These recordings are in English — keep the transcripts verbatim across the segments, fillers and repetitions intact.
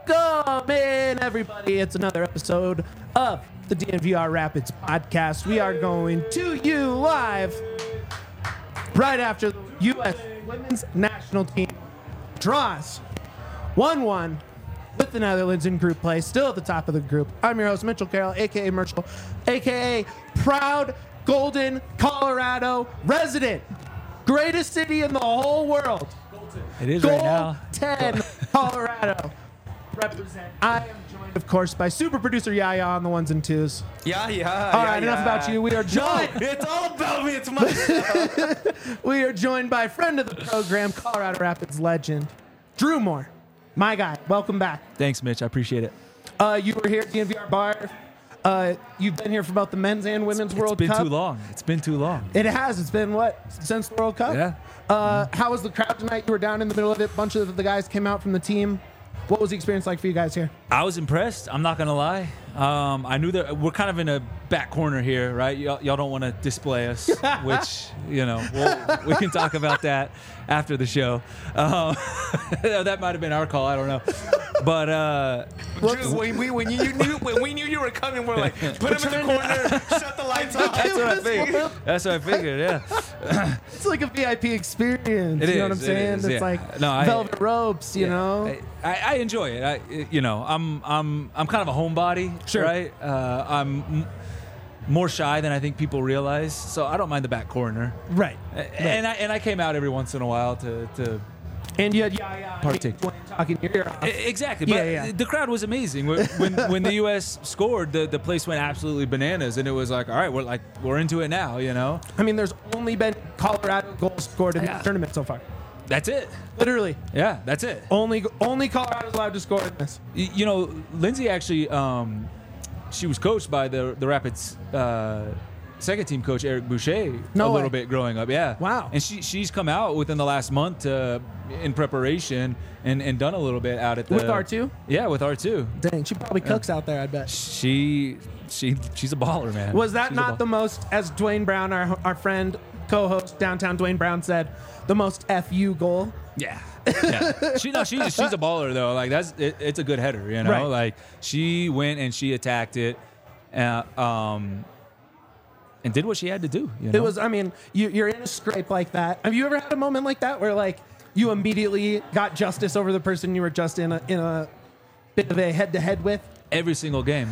Welcome in, everybody. It's another episode of the D N V R Rapids podcast. We are going to you live right after the U S women's national team draws one one with the Netherlands in group play, still at the top of the group. I'm your host, Mitchell Carroll, a k a. Merchel, a k a proud Golden, Colorado resident. Greatest city in the whole world. It is right now. ten, Colorado. Represent. I am joined, of course, by super producer Yaya on the ones and twos. Yeah, yeah. All yeah, right, yeah. enough about you. We are joined. No, it's all about me. It's my We are joined by friend of the program, Colorado Rapids legend, Drew Moore. My guy, welcome back. Thanks, Mitch. I appreciate it. Uh, you were here at D N V R Bar. Uh, you've been here for both the men's and women's It's World been Cup. too long. It's been too long. It has. It's been what since the World Cup. Yeah. Uh, how was the crowd tonight? You were down in the middle of it. A bunch of the guys came out from the team. What was the experience like for you guys here? I was impressed. I'm not gonna lie. Um, I knew that we're kind of in a back corner here, right? Y'all, y'all don't want to display us, which you know we'll, we can talk about that after the show. Um, that might have been our call. I don't know, but uh, Drew, when we when you, you knew when we knew you were coming, we're like, put him in the corner, shut the lights off. that's what I figured. That's what I figured. Yeah. It's like a V I P experience. It you know is, what I'm it saying? is, It's yeah. like No, I- velvet ropes, you Yeah. know? I, I enjoy it. I, you know, I'm I'm I'm kind of a homebody, Sure. right? Uh, I'm m- more shy than I think people realize, so I don't mind the back corner. Right. A- And I and I came out every once in a while to to And you had Yaya Partake. talking your ear off. E- exactly. But Yeah, yeah. the crowd was amazing. When when, when the U S scored, the, the place went absolutely bananas, and it was like, all right, we're like we're into it now, you know. I mean, there's only been Colorado goals scored in Yeah. the tournament so far. That's it. Literally. Yeah, that's it. Only only Colorado's allowed to score in this. Y- You know, Lindsay actually, um, she was coached by the the Rapids uh, second team coach Eric Boucher No a way. little bit growing up. Yeah. Wow. And she she's come out within the last month uh, in preparation and, and done a little bit out at the With R two? Yeah, with R two. Dang, she probably cooks out there, I bet. She she she's a baller, man. Was that She's a not ball- the most, as Dwayne Brown, our, our friend, co-host, Downtown Dwayne Brown said, the most F U goal? Yeah. Yeah. she no, she's she's a baller though. Like that's it, it's a good header, you know. Right. Like she went and she attacked it, uh, um, and did what she had to do. You know? It was, I mean, you, you're in a scrape like that. Have you ever had a moment like that where, like, you immediately got justice over the person you were just in a, in a bit of a head-to-head with? every single game.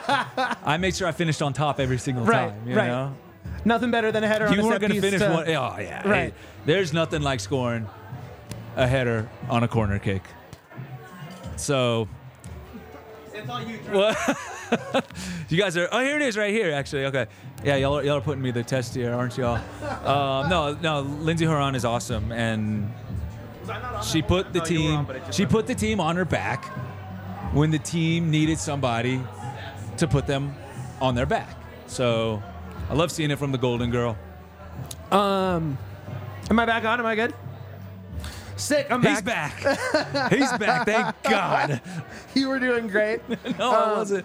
I made sure I finished on top every single Right, time. You right. know? Nothing better than a header on You a weren't set going to piece finish to- one. Oh yeah. Right. Hey, there's nothing like scoring a header on a corner kick. So. It's all you, Drew. What? You guys are. Oh, here it is, right here. Actually, okay. Yeah, y'all are, y'all are putting me the test here, aren't y'all? Um, no, no. Lindsay Horan is awesome, and she put the No, you were team. on, but it just She went- put the team on her back when the team needed somebody to put them on their back. So, I love seeing it from the Golden Girl. Um, am I back on? Am I good? Sick, I'm He's back. back. He's back. Thank God. You were doing great. No, I wasn't.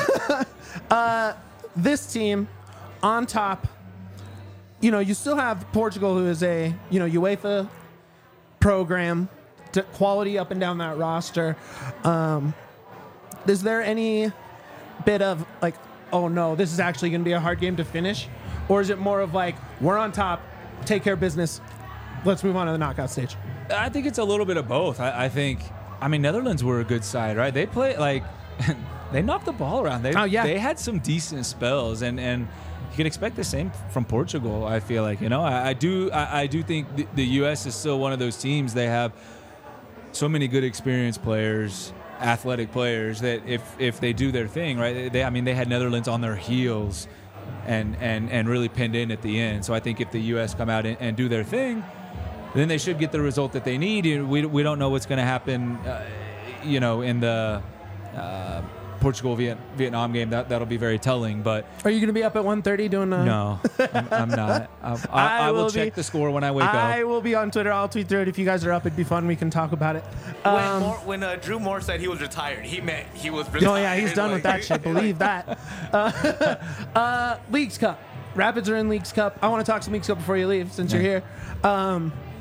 This team on top, you know, you still have Portugal, who is a, you know, UEFA program, to quality up and down that roster. Um, is there any bit of like, oh no, this is actually going to be a hard game to finish? Or is it more of like, we're on top, take care of business, let's move on to the knockout stage? I think it's a little bit of both. I, I think, I mean, Netherlands were a good side, right? They play like, they knocked the ball around. They, Oh, yeah. They had some decent spells, and, and you can expect the same from Portugal. I feel like, you know, I, I do, I, I do think the, the U S is still one of those teams. They have so many good experienced players, athletic players, that if if they do their thing, right? They, I mean, they had Netherlands on their heels, and and and really pinned in at the end. So I think if the U S come out and, and do their thing, then they should get the result that they need. You- We, we don't know what's going to happen, uh, you know, in the uh, Portugal Viet, Vietnam game. That that'll be very telling. But Are you going to be up at one thirty doing a... no, I'm, I'm not. I, I, I I will will check be- the score when I wake I up. will be on Twitter. I'll tweet through it. If you guys are up, it'd be fun. We can talk about it. When, Um, Moore, when uh, Drew Moore said he was retired, he meant he was retired. Oh yeah, he's done with that Like- shit. Believe that. Uh, uh, Leagues Cup. Rapids are in Leagues Cup. I want to talk some Leagues Cup before you leave, since you're here. Um,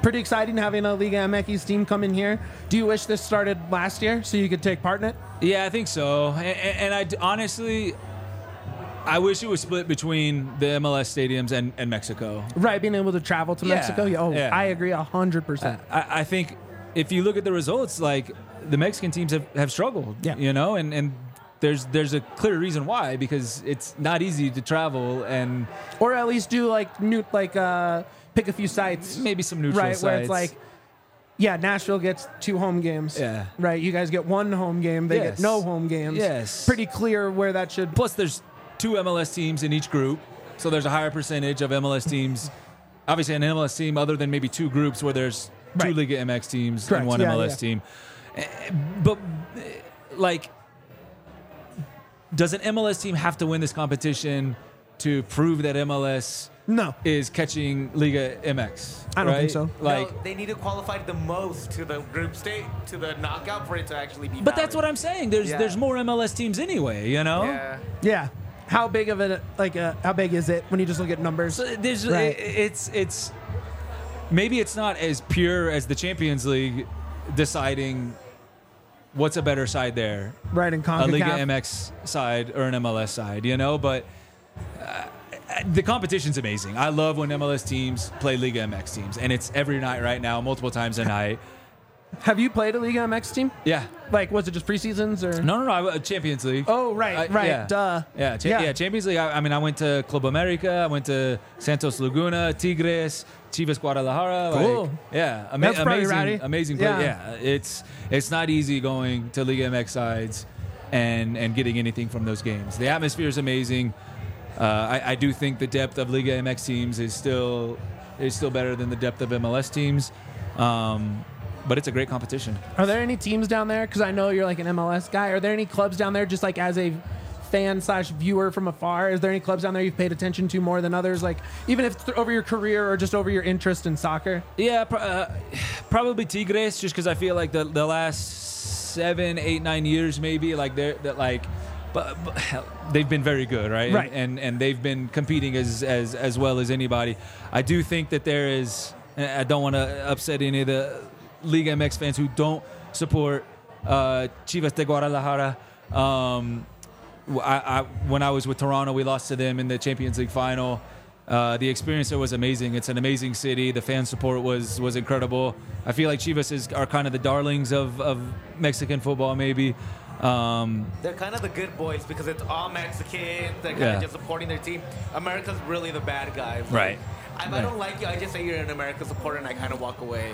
pretty exciting having a Liga M X team come in here. Do you wish this started last year so you could take part in it? Yeah, I think so. And, and I d- honestly, I wish it was split between the M L S stadiums and, and Mexico. Right, being able to travel to Yeah, Mexico. Yeah, oh, yeah. I agree a hundred percent. I, I think if you look at the results, like the Mexican teams have, have struggled, Yeah. you know, and, and there's there's a clear reason why, because it's not easy to travel and Or at least do like new, like uh, pick a few sites, maybe some neutral right? sites. Where it's like, yeah, Nashville gets two home games. Yeah. Right. You guys get one home game. They Yes. get no home games. Yes. Pretty clear where that should. Plus, there's two M L S teams in each group, so there's a higher percentage of M L S teams. Obviously, an M L S team, other than maybe two groups where there's two Right. Liga M X teams Correct, and one yeah, M L S yeah. team. Eh, But, eh, like, does an M L S team have to win this competition to prove that M L S No. is catching Liga M X? I don't right? think so. Like, no, they need to qualify the most to the group state, to the knockout for it to actually be. but that's valid. what I'm saying. There's Yeah. there's more M L S teams anyway, you know? Yeah. Yeah. How big of it? Like, uh, how big is it when you just look at numbers? So there's Right. it- it's it's maybe it's not as pure as the Champions League deciding what's a better side there, Right in a Liga CONCACAF. M X side or an M L S side, you know. But uh, the competition's amazing. I love when M L S teams play Liga M X teams, and it's every night right now, multiple times a night. Have you played a Liga M X team? Yeah. Like, was it just preseasons or? No, no, no. I- Champions League. Oh, right, I- right. yeah. Duh. Yeah, cha- Yeah. yeah. Champions League. I, I mean, I went to Club America. I went to Santos Laguna, Tigres, Chivas Guadalajara. Cool. Like, yeah, ama- That's probably amazing, rowdy. amazing play. Yeah. Yeah. it's it's not easy going to Liga M X sides and and getting anything from those games. The atmosphere is amazing. Uh, I, I do think the depth of Liga M X teams is still is still better than the depth of M L S teams. Um, but it's a great competition. Are there any teams down there? Because I know you're like an M L S guy. Are there any clubs down there, just like as a fan slash viewer from afar? Is there any clubs down there you've paid attention to more than others? Like, even if it's over your career or just over your interest in soccer? Yeah, pr- uh, probably Tigres, just because I feel like the the last seven, eight, nine years, maybe like they're that like, but, but hell, they've been very good, right? Right. And, and and they've been competing as as as well as anybody. I do think that there is. and I don't want to upset any of the Liga M X fans who don't support uh, Chivas de Guadalajara. Um, I, I, when I was with Toronto, we lost to them in the Champions League final. Uh, the experience there was amazing. It's an amazing city. The fan support was was incredible. I feel like Chivas is, are kind of the darlings of, of Mexican football, maybe. Um, They're kind of the good boys because it's all Mexicans. They're kind Yeah. of just supporting their team. America's really the bad guys. Right. If I don't like you, I just say you're an American supporter and I kind of walk away.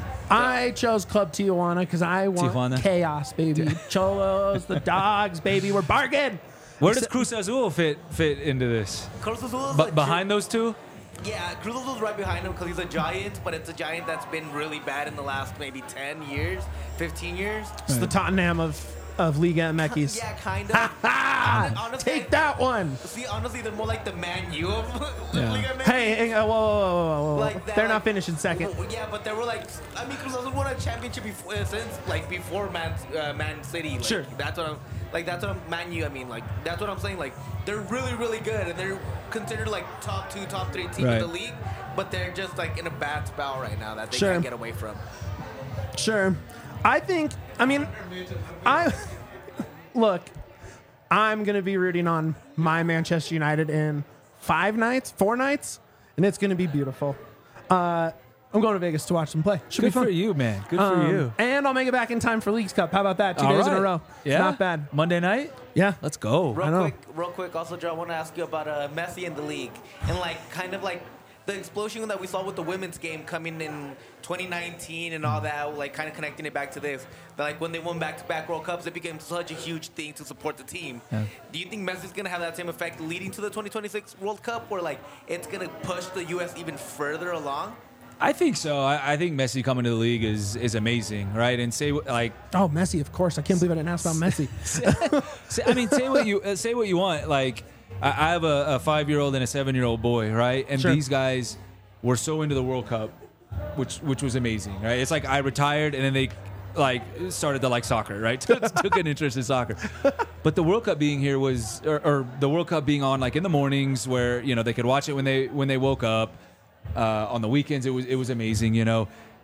I chose Club Tijuana because I want Tijuana? chaos, baby. Cholos, the dogs, baby. We're bargain. where does Cruz Azul fit fit into this? Cruz Azul is But a behind those two? Yeah, Cruz Azul's right behind him because he's a giant, but it's a giant that's been really bad in the last maybe ten years, fifteen years. It's the Tottenham of, of Liga M X. Yeah, kind of. Hon- honestly, Take that one. See, honestly, they're more like the Man U of Yeah. Liga M X. Hey, hey, uh, whoa, whoa, whoa, whoa, whoa. Like that, They're like- not finishing second. Well, yeah, but they were like, I mean, Cruz Azul won a championship before, uh, since like before Man uh, Man City. Like, Sure. That's what I'm like. That's what I'm Man U. I mean, like that's what I'm saying. Like they're really, really good, and they're considered like top two, top three team Right. in the league. But they're just like in a bad spell right now that they Sure. can't get away from. Sure. I think, I mean, I look, I'm going to be rooting on my Manchester United in five nights, four nights, and it's going to be beautiful. Uh, I'm going to Vegas to watch them play. Should Good be fun. for you, man. Good Um, for you. And I'll make it back in time for Leagues Cup. How about that? Two All days in a right. row. Yeah. Not bad. Monday night? Yeah. Let's go. Real I know. quick, real quick. Also, Joe, I want to ask you about uh, Messi in the league and like kind of like the explosion that we saw with the women's game coming in twenty nineteen and all that, like kind of connecting it back to this. But like when they won back-to-back World Cups, it became such a huge thing to support the team. Yeah. Do you think Messi's gonna have that same effect leading to the twenty twenty-six World Cup, or like it's gonna push the U S even further along? I think so. I, I think Messi coming to the league is is amazing, right? And say what- like, Oh, Messi, of course. I can't believe I didn't ask about Messi. say, I mean, say what you uh, say what you want. Like, I, I have a, a five year old and a seven year old boy, right? And Sure. these guys were so into the World Cup, which which was amazing, right? It's like I retired and then they like started to like soccer, right? took, took an interest in soccer. But the World Cup being here was, or, or the World Cup being on like in the mornings where you know they could watch it when they when they woke up. Uh, on the weekends, it was it was amazing, you know.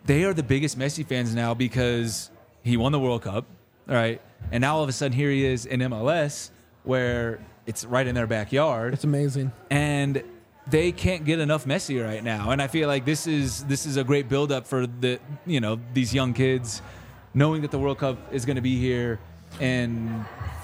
they are the biggest Messi fans now because he won the World Cup, all right? And now all of a sudden here he is in M L S where it's right in their backyard. It's amazing. And they can't get enough Messi right now. And I feel like this is this is a great buildup for the you know these young kids, knowing that the World Cup is going to be here in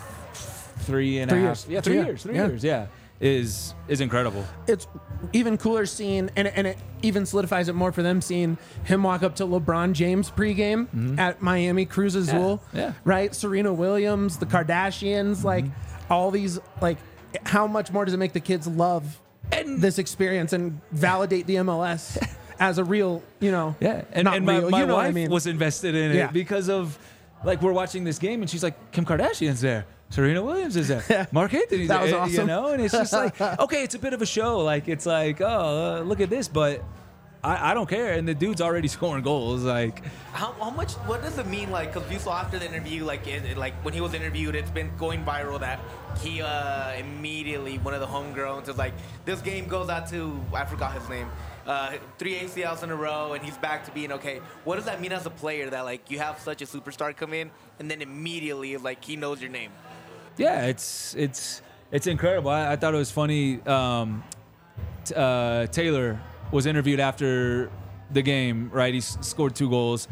three and Three a half years. yeah three Yeah. years three Yeah. years yeah is is incredible. It's even cooler seeing, and, and it even solidifies it more for them, seeing him walk up to LeBron James pregame Mm-hmm. at Miami Cruz Azul, yeah. right? Serena Williams, the Kardashians, Mm-hmm. like all these, like how much more does it make the kids love And- this experience and validate the M L S as a real, you know, Yeah, and, not and my, real, my you know wife what I mean? was invested in it Yeah. because of, like, we're watching this game and she's like, Kim Kardashian's there, Serena Williams is there, Mark Anthony's That was there, awesome. you know, and it's just like, okay, it's a bit of a show, like it's like, oh, uh, look at this, but I, I don't care, and the dude's already scoring goals, like, How, how much? What does it mean? Like, because you saw after the interview, like, it, it- like when he was interviewed, it's been going viral that he uh, immediately one of the homegrowns is like, this game goes out to I forgot his name, uh, three A C Ls in a row, and he's back to being okay. What does that mean as a player that like you have such a superstar come in and then immediately like he knows your name? yeah, it's it's it's incredible. I, I thought it was funny. Um, t- uh, Taylor was interviewed after the game, right? He s- scored two goals,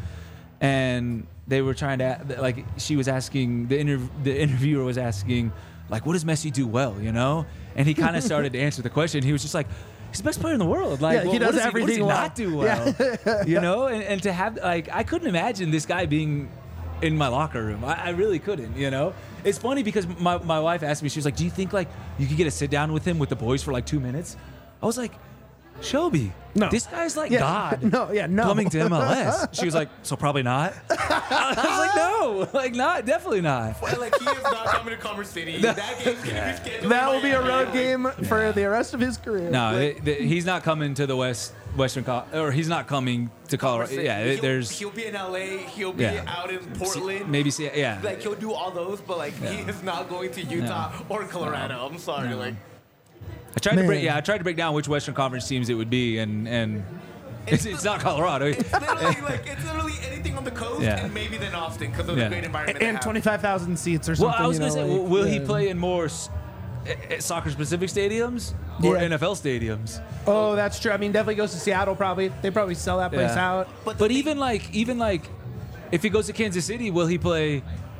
and they were trying to like. She was asking the interv- the interviewer was asking, like, what does Messi do well? You know, and he kind of started to answer the question. He was just like, he's the best player in the world. Like, Yeah, he what- does what does everything He, what well. does he not do well? You know, and, and to have like, I couldn't imagine this guy being in my locker room. I, I really couldn't, you know? It's funny because my, my wife asked me, she was like, do you think like you could get a sit down with him with the boys for like two minutes? I was like, Shelby, No. this guy's like Yeah. God. No, yeah, no. Coming to M L S. She was like, so probably not. I was like, no, like not, definitely not. Well, like he is not coming to Commerce City. That game's gonna be scheduled. That in will be a Miami. road Like, game for the rest of his career. No, Like, it, the, he's not coming to the West Western Col- or he's not coming to Commerce Colorado. City. Yeah, he'll, there's he'll be in L A. He'll be Yeah. out in Portland. maybe see, yeah. Like he'll do all those, but like he Yeah. is not going to Utah or Colorado. I'm sorry, No. like I tried to break. Man. Yeah, I tried to break down which Western Conference teams it would be, and and it's, it's not Colorado. it's literally like it's literally anything on the coast Yeah. and maybe then Austin because of Yeah. the great environment. and they have. twenty-five thousand seats or Well, something. I was you gonna know, say, like, will he yeah. play in more soccer specific stadiums or Yeah. N F L stadiums? Oh, that's true. I mean, definitely goes to Seattle. Probably they probably sell that place Yeah. out. But, But the even like even like if he goes to Kansas City, will he play?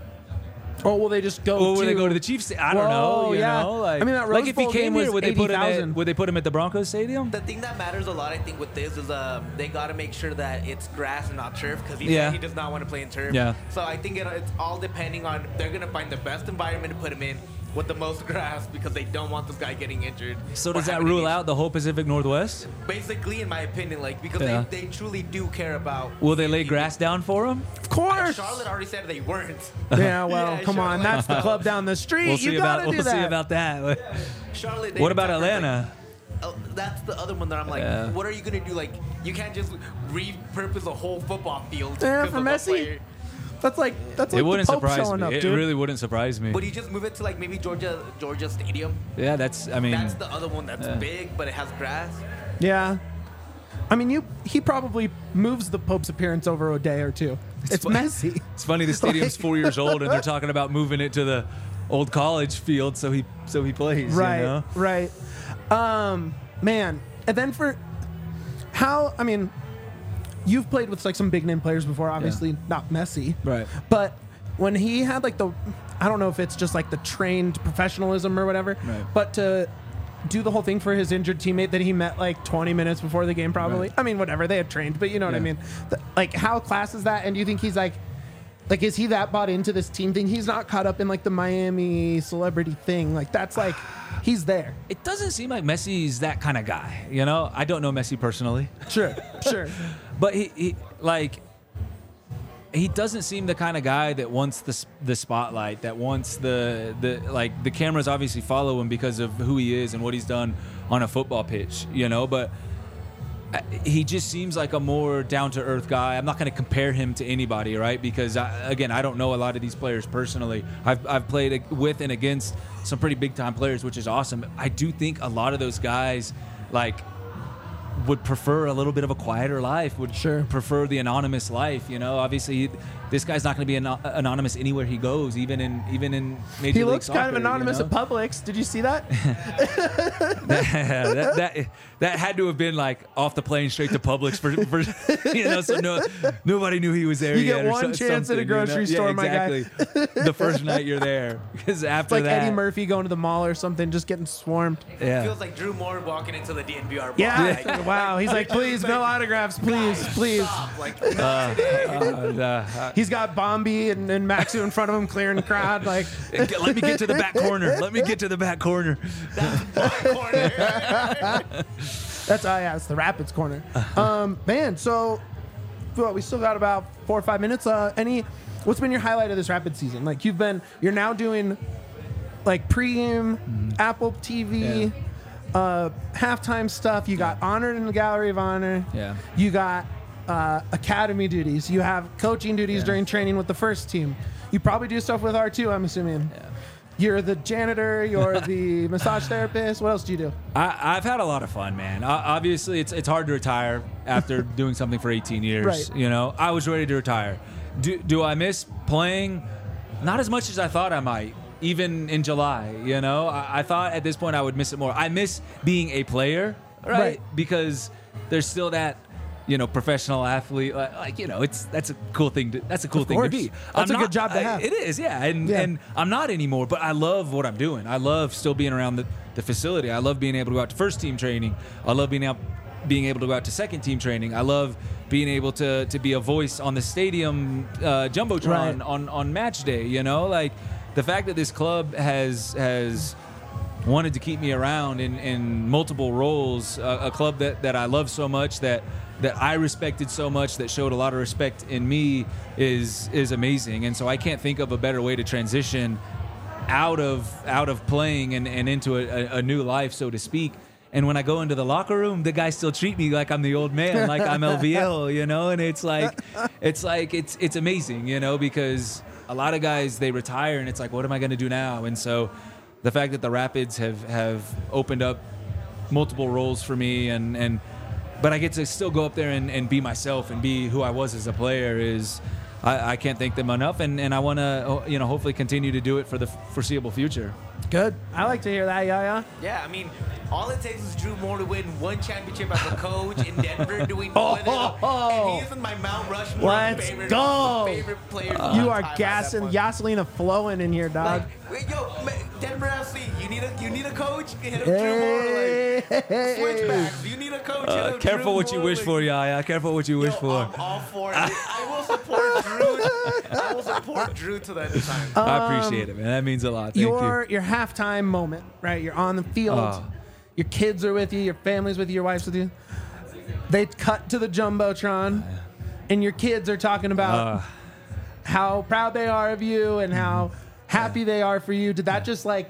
Or will they just go? Or will to, they go to the Chiefs? I don't Whoa, know. You yeah. know, like I mean, that like Rose if he Bowl came game here, was would they put him eighty at? thousand. Would they put him at the Broncos Stadium? the thing that matters a lot, I think, with this is um, they got to make sure that it's grass and not turf because he Yeah. said he does not want to play in turf. Yeah. So I think it, it's all depending on they're gonna find the best environment to put him in with the most grass because they don't want this guy getting injured. So or does that having rule an out the whole Pacific Northwest? issue. Basically, in my opinion, like because Yeah. they, they truly do care about. Will they lay people. grass down for him? Of course. Charlotte already said they weren't. Yeah, well, Yeah, come on. Charlotte. That's the club down the street. We'll you see gotta about do we'll that. see about that. Charlotte. they What about prefer, like, Atlanta? Oh, that's the other one that I'm like, Yeah. what are you gonna do? Like, you can't just repurpose a whole football field. Yeah, because for of a Messi. player. That's like that's like It wouldn't the Pope surprise showing me. up, It dude. really wouldn't surprise me. Would you just move it to like maybe Georgia, Georgia Stadium? Yeah, that's. I mean, That's the other one that's Yeah. big, but it has grass. Yeah. I mean, you he probably moves the Pope's appearance over a day or two. It's, fun- messy. it's funny. The stadium's four years old, and they're talking about moving it to the old college field so he so he plays. Right, You know? right. Um, man, and then for how I mean, you've played with like some big name players before. Obviously, not Messi, Right. But when he had like the, I don't know if it's just like the trained professionalism or whatever, Right. but to do the whole thing for his injured teammate that he met like twenty minutes before the game, probably. Right. I mean, whatever, they had trained, but you know what I Yeah. mean. The- like, how class is that? And do you think he's like, like, is he that bought into this team thing? He's not caught up in like the Miami celebrity thing. Like, that's like, he's there. It doesn't seem like Messi's that kind of guy. You know, I don't know Messi personally, Sure, sure. but he, he like he doesn't seem the kind of guy that wants the s- the spotlight, that wants the the like the cameras obviously follow him because of who he is and what he's done on a football pitch. You know, but. I- He just seems like a more down-to-earth guy. I'm not going to compare him to anybody, right? Because, I, again, I don't know a lot of these players personally. I've, I've played with and against some pretty big-time players, which is awesome. I do think a lot of those guys, like, would prefer a little bit of a quieter life, would Sure. prefer the anonymous life. You know, obviously this guy's not going to be an- anonymous anywhere he goes, even in even in Major He League looks Soccer. kind of anonymous you know? at Publix. Did you see that? that, that that had to have been like off the plane straight to Publix for, for you know, so no nobody knew he was there You yet. get or one so- chance at a something, you know? grocery Yeah, store, my guy. exactly. The first night you're there, because after It's like that, Eddie Murphy going to the mall or something, just getting swarmed. yeah. Feels like Drew Moore walking into the D N V R bar. Yeah. Like, Wow. He's like, please, no autographs, please, please. stop. Like, Uh, uh, He's got Bombi and, and Maxu in front of him, clearing the crowd. Like, uh, let me get to the back corner. Let me get to the back corner. corner. that's, oh, yeah, it's the Rapids corner. Um, man, so well, we still got about four or five minutes. Uh, any, what's been your highlight of this Rapids season? Like, you've been, you're now doing like pregame, Apple T V, Yeah. uh, halftime stuff. You got honored in the Gallery of Honor. Yeah. You got uh, academy duties. You have coaching duties Yeah. during training with the first team. You probably do stuff with R two, I'm assuming. Yeah. You're the janitor. You're the massage therapist. What else do you do? I, I've had a lot of fun, man. I, obviously, it's it's hard to retire after doing something for eighteen years. Right. You know, I was ready to retire. Do do I miss playing? Not as much as I thought I might. Even in July, you know, I, I thought at this point I would miss it more. I miss being a player, right? Right. Because there's still that, you know, professional athlete. Like, like, you know, it's that's a cool thing. To, that's a cool Of thing course. to be. That's I'm a good job to I- have. It is, yeah. And Yeah. and I'm not anymore, but I love what I'm doing. I love still being around the, the facility. I love being able to go out to first team training. I love being out being able to go out to second team training. I love being able to to be a voice on the stadium uh, jumbotron Right. on on match day. You know, like the fact that this club has has wanted to keep me around in, in multiple roles, uh, a club that, that I love so much, that that I respected so much, that showed a lot of respect in me, is is amazing. And so I can't think of a better way to transition out of out of playing and, and into a, a, a new life, so to speak. And when I go into the locker room, the guys still treat me like I'm the old man, like I'm L V L, you know. And it's like, it's like it's it's amazing, you know, because a lot of guys, they retire and it's like, what am I going to do now? And so the fact that the Rapids have, have opened up multiple roles for me, and, and but I get to still go up there and, and be myself and be who I was as a player is, I, I can't thank them enough. And, and I want to, you know, hopefully continue to do it for the foreseeable future. Good. I like to hear that, yeah, Yeah, I mean, all it takes is Drew Moore to win one championship as a coach in Denver, doing all of it. And he's in my Mount Rushmore. Let's favorite, go. Favorite players. yeah. of You all are time at gassing, that point. gasoline flowing in here, dog. Like, wait, yo, ma- Denver F C, you need a you need a coach. Hit up Hey, Drew Moore. Like, switchbacks. You need a coach. hit Uh, up careful Drew what you Moore, wish like, for, Yaya. Careful what you wish yo, for. I'm all for it. I will support Drew. I will support Drew to that time. I appreciate it, man. That means a lot. Thank your you. your halftime moment, right? You're on the field. Oh. Your kids are with you. Your family's with you. Your wife's with you. They cut to the jumbotron, and your kids are talking about Uh, how proud they are of you and how happy they are for you. Did that just like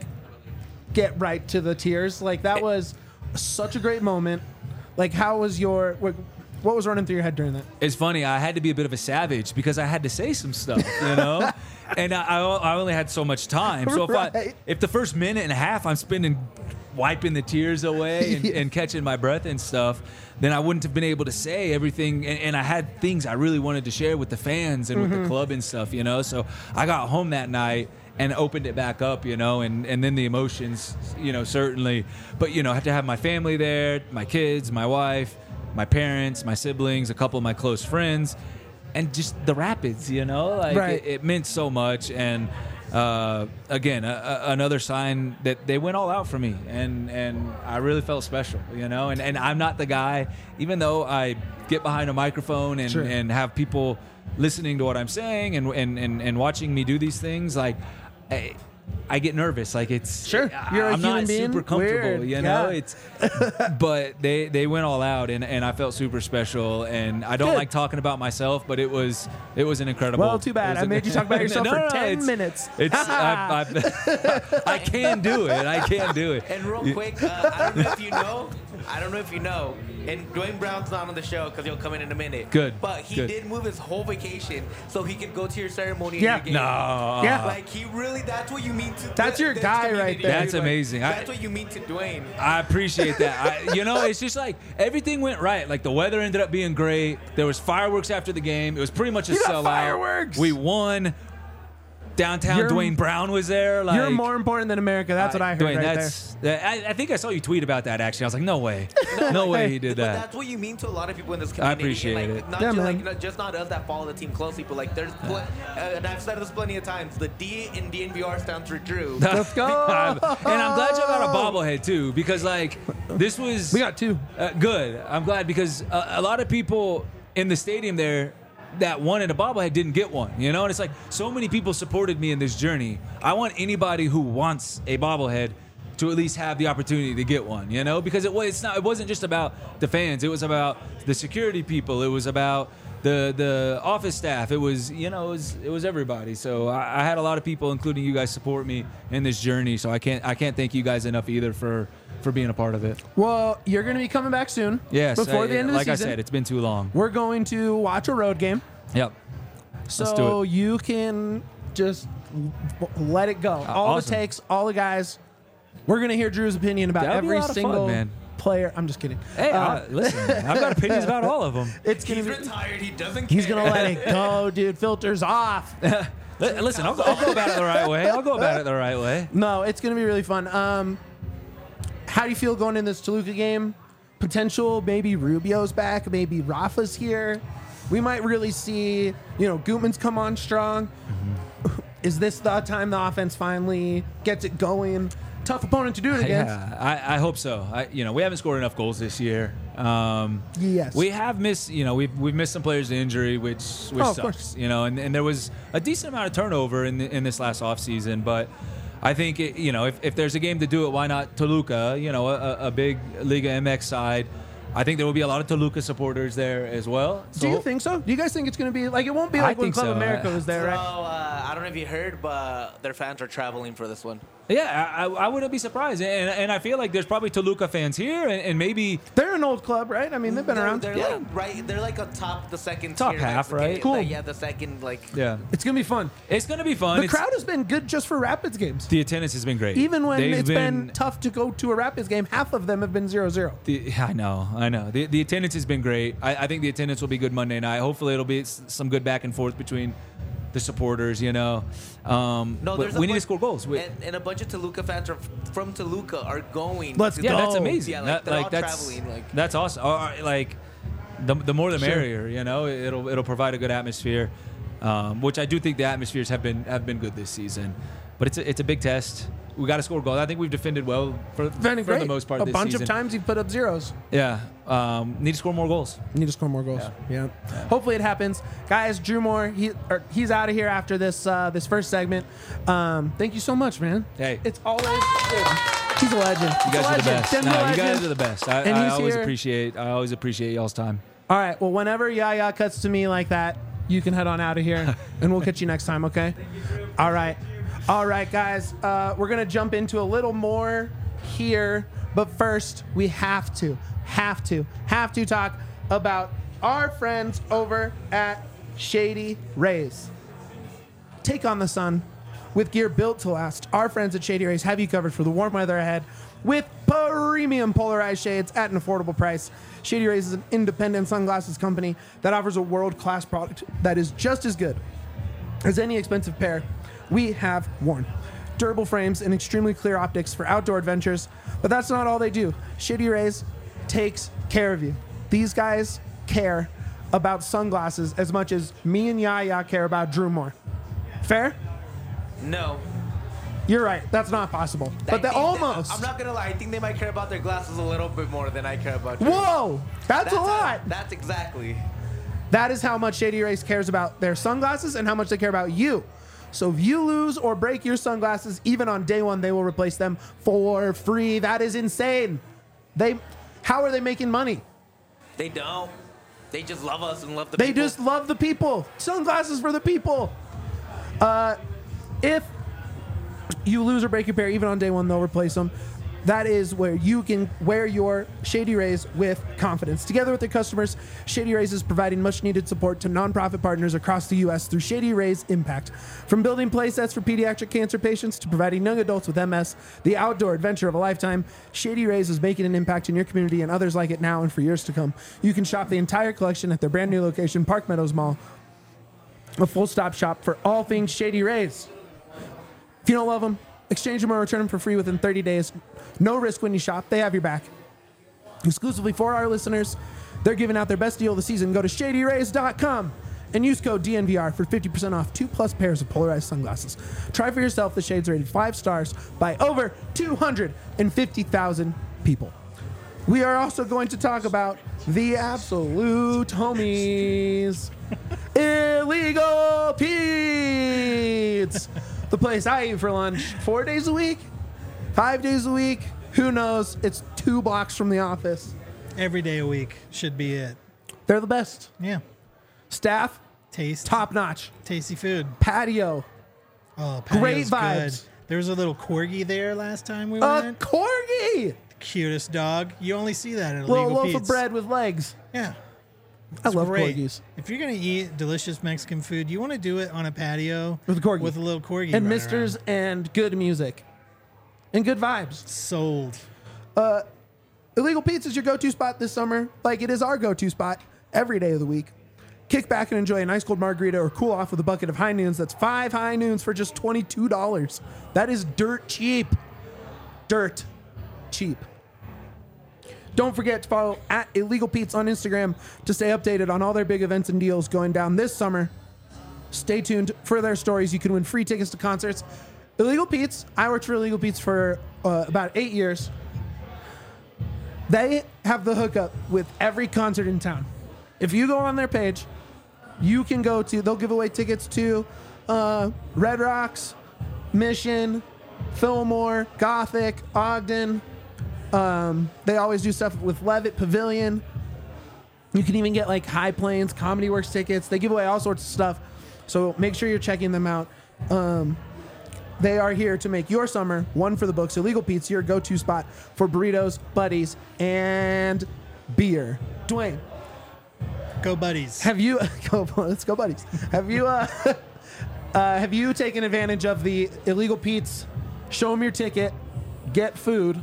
get right to the tears? Like that was such a great moment. Like how was your what, what was running through your head during that? It's funny. I had to be a bit of a savage because I had to say some stuff, you know, and I, I I only had so much time. So if Right. I if the first minute and a half I'm spending wiping the tears away and, Yeah. and catching my breath and stuff, then I wouldn't have been able to say everything. And, and I had things I really wanted to share with the fans and with the club and stuff, you know. So I got home that night and opened it back up, you know, and, and then the emotions, you know, certainly. But, you know, I have to have my family there, my kids, my wife, my parents, my siblings, a couple of my close friends, and just the Rapids, you know, like Right. it, it meant so much. And uh, again, a, a, another sign that they went all out for me, and, and I really felt special, you know. And, and I'm not the guy, even though I get behind a microphone and, Sure. and have people listening to what I'm saying and, and, and, and watching me do these things, like I, I get nervous. Like it's Sure. You're a I'm human not being. super comfortable, Weird. you know. Yeah. It's but they they went all out, and, and I felt super special. And I don't Good. like talking about myself, but it was it was an incredible. Well, too bad. it was I an- made you talk about yourself No, for no, no, ten it's- minutes. It's I, I, I can do it. I can do it. And real You- quick, uh, I don't know if you know, I don't know if you know, and Dwayne Brown's not on the show because he'll come in in a minute. Good. But he Good. did move his whole vacation so he could go to your ceremony. Yeah. And your game. No. Yeah. Like he really, that's what you mean to. That's your this guy community, right there. dude. That's Like, amazing. I- That's what you mean to Dwayne. I appreciate that. I, you know, it's just like everything went right. Like the weather ended up being great. There was fireworks after the game. It was pretty much a You got sellout. fireworks. We won. Downtown You're- Dwayne Brown was there. Like, You're more important than America. That's what I heard Dwayne, right that's, that- I, I think I saw you tweet about that. Actually, I was like, no way, no way he did But that. that's what you mean to a lot of people in this I community. appreciate and, like, it. Not Yeah, just, man. like, not, just not us that follow the team closely, but like there's, pl- uh, and I've said this plenty of times. The D in D N V R stands for Drew. Let's go. I'm- and I'm glad y'all got a bobblehead too, because like this was We got two. uh, good. I'm glad because a, a lot of people in the stadium there that wanted a bobblehead didn't get one, you know. And it's like so many people supported me in this journey. I want anybody who wants a bobblehead to at least have the opportunity to get one, you know, because it was it's not it wasn't just about the fans. It was about the security people. It was about the the office staff. It was you know it was it was everybody. So I, I had a lot of people, including you guys, support me in this journey. So I can't I can't thank you guys enough either for for being a part of it. Well, you're going to be coming back soon. Yes, Before I- the end of the like season. I said, it's been too long. We're going to watch a road game. Yep. So do it. you can just w- let it go. all awesome. the takes, all the guys. We're going to hear Drew's opinion about That'll be a every lot of fun, single man. player. I'm just kidding. Hey, Uh, I, listen, I've got opinions about all of them. it's going He's to be. retired. He doesn't. He's care. going to let it go, dude. Filters off. Listen, I'll, I'll go about it the right way. I'll go about it the right way. No, it's going to be really fun. Um, how do you feel going in this Toluca game? Potential, maybe Rubio's back, maybe Rafa's here. We might really see, you know, Gutman's come on strong. Mm-hmm. Is this the time the offense finally gets it going? Tough opponent to do it against. Yeah, I, I hope so. I, you know, we haven't scored enough goals this year. Um, Yes. we have missed. You know, we've we've missed some players to injury, which which Oh, of sucks. course. You know, and, and there was a decent amount of turnover in the, in this last offseason, but. I think, it, you know, if, if there's a game to do it, why not Toluca? You know, a, a big Liga M X side. I think there will be a lot of Toluca supporters there as well. Do you think so? Do you guys think it's going to be like it won't be like I when think Club so. America was there, So right? uh, I don't know if you heard, but their fans are traveling for this one. Yeah, I, I wouldn't be surprised. And, and I feel like there's probably Toluca fans here, and, and maybe They're an old club, right? I mean, they've been They're- around. They're Yeah. like right. They're like a top, the second Top tier, half, like, right? the- Cool. like, yeah, the second like. yeah, It's going to be fun. it's gonna be fun. The It's- crowd has been good just for Rapids games. the attendance has been great, Even when They've it's been, tough to go to a Rapids game, half of them have been zero zero. The, I know, I know. The, the attendance has been great. I, I think the attendance will be good Monday night. Hopefully, it'll be s- some good back and forth between the supporters. You know, um, No, but there's a we need to bunch- score goals. We, And, and a bunch of Toluca fans are from Toluca are going. Let's to- yeah, go. that's amazing. Yeah, like, That- they're all that's traveling, like- that's awesome. Or, or, like the, the more the Sure. merrier. You know, it'll it'll provide a good atmosphere, um, which I do think the atmospheres have been have been good this season. But it's a, it's a big test. We got to score goals. I think we've defended well for, Defending for great. the most part a this bunch season. of times you've put up zeros. Yeah, um, need to score more goals. Need to score more goals. Yeah. Hopefully it happens, guys. Drew Moore, he or he's out of here after this uh, this first segment. Um, thank you so much, man. Hey. it's always dude, he's a legend. You guys are the best. Denver No, you legend. guys are the best. I, And I he's always here. appreciate. I always appreciate y'all's time. All right. Well, whenever Yaya cuts to me like that, you can head on out of here, and we'll catch you next time. Okay. All right. All right, guys. Uh, we're gonna jump into a little more here, but first we have to, have to, have to talk about our friends over at Shady Rays. Take on the sun with gear built to last. Our friends at Shady Rays have you covered for the warm weather ahead with premium polarized shades at an affordable price. Shady Rays is an independent sunglasses company that offers a world-class product that is just as good as any expensive pair we have worn. Durable frames and extremely clear optics for outdoor adventures, but that's not all they do. Shady Rays takes care of you. These guys care about sunglasses as much as me and Yaya care about Drew Moore. Fair? No. You're right. That's not possible. I But they think almost. I'm not gonna lie. I think they might care about their glasses a little bit more than I care about. Drew. Whoa! That's, a lot. That's exactly. That is how much Shady Rays cares about their sunglasses and how much they care about you. So if you lose or break your sunglasses, even on day one, they will replace them for free. That is insane. They, how are they making money? They don't. They just love us and love the They people. just love the people. Sunglasses for the people. Uh, if you lose or break your pair, even on day one, they'll replace them. That is where you can wear your Shady Rays with confidence. Together with their customers, Shady Rays is providing much-needed support to nonprofit partners across the U S through Shady Rays Impact. From building play sets for pediatric cancer patients to providing young adults with M S, the outdoor adventure of a lifetime, Shady Rays is making an impact in your community and others like it now and for years to come. You can shop the entire collection at their brand new location, Park Meadows Mall, a full-stop shop for all things Shady Rays. If you don't love them, exchange them or return them for free within thirty days. No risk when you shop. They have your back. Exclusively for our listeners, they're giving out their best deal of the season. Go to shady rays dot com and use code D N V R for fifty percent off two plus pairs of polarized sunglasses. Try for yourself. The shades rated five stars by over two hundred fifty thousand people. We are also going to talk about the absolute homies, Illegal Pete's. The place I eat for lunch four days a week, five days a week. Who knows? It's two blocks from the office. Every day a week should be it. They're the best. Yeah. Staff, Taste. top notch. Tasty food. Patio, Oh, patio's great vibes. Good. There was a little corgi there last time we A went. corgi, Cutest dog. You only see that at little Illegal loaf Pete's. of bread with legs. Yeah. I love Great. corgis. If you're going to eat delicious Mexican food, you want to do it on a patio With a corgi. with a little corgi. And right misters around. and good music. And good vibes. Sold. Illegal Pete's is your go-to spot this summer, like it is our go-to spot every day of the week. Kick back and enjoy an ice cold margarita or cool off with a bucket of high noons. That's five high noons for just twenty-two dollars. That is dirt cheap. Dirt cheap. Don't forget to follow at Illegal Pete's on Instagram to stay updated on all their big events and deals going down this summer. Stay tuned for their stories. You can win free tickets to concerts. Illegal Pete's, I worked for Illegal Pete's for uh, about eight years. They have the hookup with every concert in town. If you go on their page, you can go to, they'll give away tickets to uh, Red Rocks, Mission, Fillmore, Gothic, Ogden. Um, they always do stuff with Levitt Pavilion. You can even get like High Plains, Comedy Works tickets. They give away all sorts of stuff. So make sure you're checking them out. Um, they are here to make your summer one for the books. Illegal Pete's, your go-to spot for burritos, buddies, and beer. Dwayne, Go buddies. have you go? Let's go, buddies. Have you uh, uh, have you taken advantage of the Illegal Pete's? Show them your ticket, get food,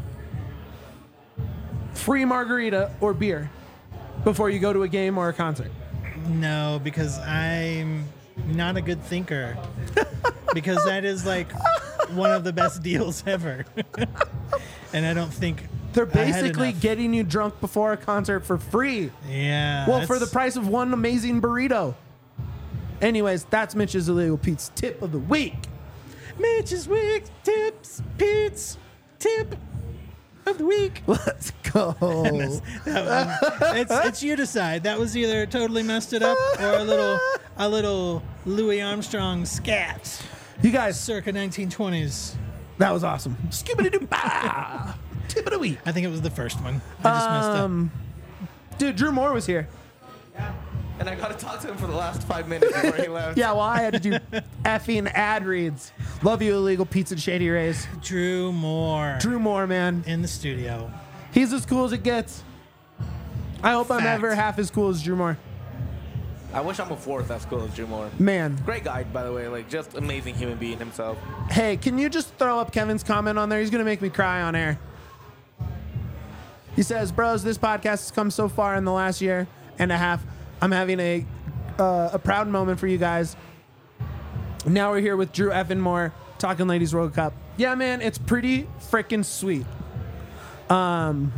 free margarita or beer before you go to a game or a concert. No, because I'm not a good thinker. Because that is like one of the best deals ever. And I don't think They're I had basically enough. getting you drunk before a concert for free. Yeah. Well, for the that's- price of one amazing burrito. Anyways, that's Mitch's Illegal Pete's tip of the week. Mitch's Week Tips, Pete's Tip of the Week. Let's go. it's it's you decide. That was either totally messed it up or a little a little Louis Armstrong scat, You guys, circa nineteen twenties. that was awesome. Skibbity-doo-bah. Tip of the week. I think it was the first one. I just messed up. Um, dude, Drew Moore was here. And I got to talk to him for the last five minutes before he left. Yeah, well, I had to do effing ad reads. Love you, Illegal Pete's and Shady Rays. Drew Moore Drew Moore, man. in the studio. He's as cool as it gets. I hope I'm Fact. ever half as cool as Drew Moore. I wish I'm a fourth as cool as Drew Moore. Man. Great guy, by the way. Like, just amazing human being himself. Hey, can you just throw up Kevin's comment on there? He's going to make me cry on air. He says, bros, this podcast has come so far in the last year and a half. I'm having a uh, a proud moment for you guys. Now we're here with Drew effing Moore talking Ladies World Cup. Yeah, man, it's pretty freaking sweet. Um,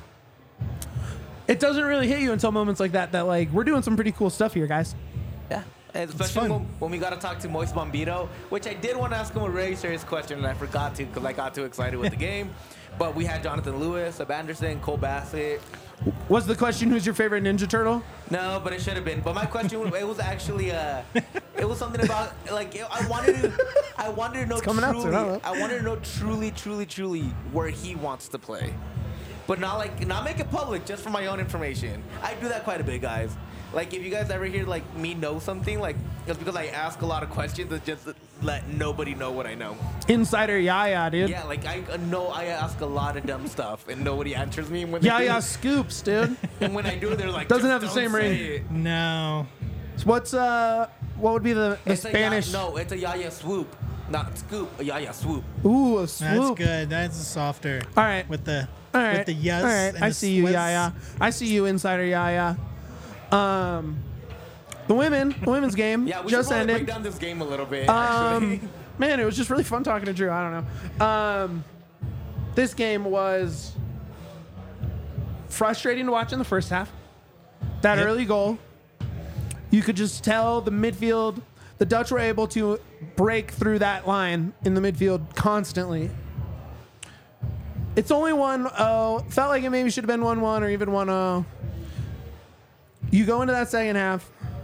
it doesn't really hit you until moments like that, that like, we're doing some pretty cool stuff here, guys. Yeah. And especially fun. when, when we got to talk to Moist Bombito, which I did want to ask him a really serious question, and I forgot to because I got too excited with the game. But we had Jonathan Lewis, Seb Anderson, Cole Bassett. Was the question, who's your favorite Ninja Turtle? No, but it should have been. But my question, it was actually, uh, it was something about like it, I wanted to, I wanted to know coming out truly, soon, I don't know. I wanted to know truly, truly, truly where he wants to play. but not like not make it public, just for my own information. I do that quite a bit, guys. Like, if you guys ever hear like me know something, like it's because I ask a lot of questions and just let nobody know what I know. Insider Yaya, dude. Yeah, like I uh, know I ask a lot of dumb stuff and nobody answers me. And when they Yaya do, scoops, dude. and when I do, they're like, Doesn't "Just have the don't same say ring." it." No. So what's uh what would be the, the It's Spanish? A ya- no, it's a Yaya swoop, not scoop. A Yaya swoop. Ooh, a That's swoop. good. That's softer. All right. With the All right. with the yes. All right. and I the see you, Swiss. Yaya. I see you, Insider Yaya. Um, the women, the women's game Yeah, we just should probably ended. break down this game a little bit. Um, actually. man, it was just really fun talking to Drew. I don't know. Um, this game was frustrating to watch in the first half. That Yep. early goal, you could just tell the midfield. The Dutch were able to break through that line in the midfield constantly. It's only one oh. Felt like it maybe should have been one one or even one oh. You go into that second half.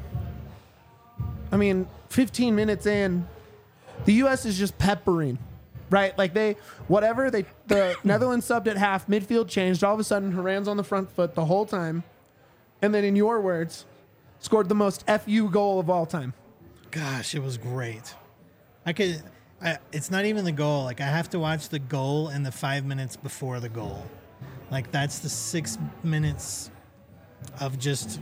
I mean, fifteen minutes in, the U S is just peppering, right? Like they, whatever they, the Netherlands subbed at half, midfield changed. All of a sudden, Haran's on the front foot the whole time, and then, in your words, scored the most F U goal of all time. Gosh, it was great. I could. I, it's not even the goal. Like I have to watch the goal and the five minutes before the goal. Like that's the six minutes of just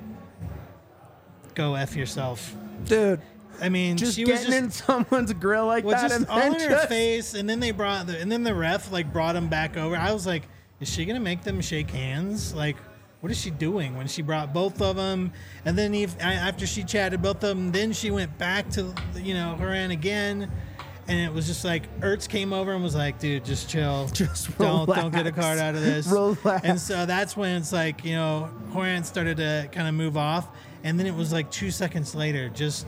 go F yourself. Dude, I mean, just she was getting just in someone's grill like well, that, just and all then in her just face, and then they brought the, and then the ref like brought him back over. I was like, is she gonna make them shake hands? Like, what is she doing when she brought both of them? And then if, after she chatted both of them, then she went back to you know Haran again, and it was just like Ertz came over and was like, dude, just chill, Just don't don't get a relax. card out of this. Relax. And so that's when it's like you know Haran started to kind of move off, and then it was like two seconds later, just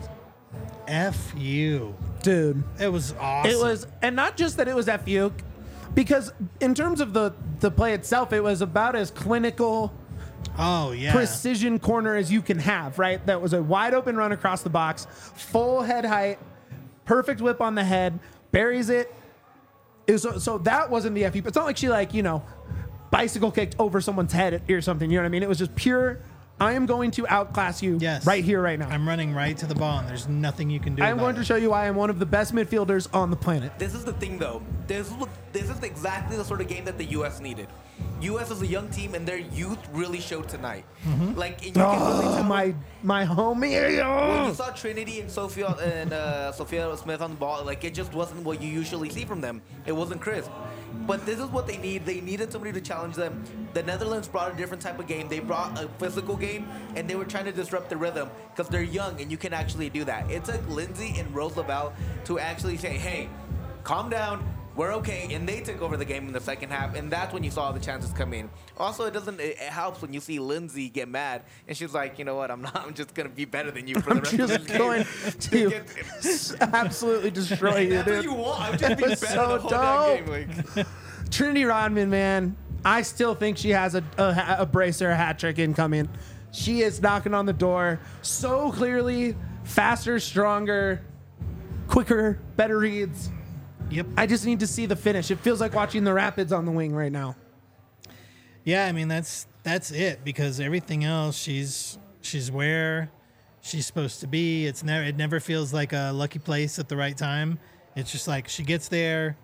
F you. dude. It was awesome. It was, and not just that it was F U, because in terms of the the play itself, it was about as clinical, Oh yeah. precision corner as you can have. Right, that was a wide open run across the box, full head height, perfect whip on the head, buries it. It was, so, so that wasn't the F U. It's not like she like you know bicycle kicked over someone's head or something. You know what I mean? It was just pure. I am going to outclass you Yes. right here, right now. I'm running right to the ball, and there's nothing you can do. I am about going to it. show you why I'm one of the best midfielders on the planet. This is the thing, though. This is this is exactly the sort of game that the U S needed. U S is a young team, and their youth really showed tonight. Like, and you can really Oh, tell my my homie. when you Oh. saw Trinity and Sophia and uh, Sophia Smith on the ball, like it just wasn't what you usually see from them. It wasn't crisp. But this is what they need. They needed somebody to challenge them. The Netherlands brought a different type of game. They brought a physical game, and they were trying to disrupt the rhythm because they're young, and you can actually do that. It took Lindsay and Rose Lavelle to actually say, hey, calm down. We're okay, and they took over the game in the second half, and that's when you saw the chances come in. Also, it doesn't. It, it helps when you see Lindsay get mad, and she's like, you know what? I'm not. I'm just gonna be better than you for I'm the rest of just this game. going to Get- absolutely destroy you, That's what dude. you want. I'm just being was better so the whole damn dope. game. Like, Trinity Rodman, man, I still think she has a, a, a bracer, a hat trick incoming. She is knocking on the door so clearly, faster, stronger, quicker, better reads. Yep. I just need to see the finish. It feels like watching the Rapids on the wing right now. Yeah, I mean that's that's it because everything else she's she's where she's supposed to be. It's never it never feels like a lucky place at the right time. It's just like she gets there,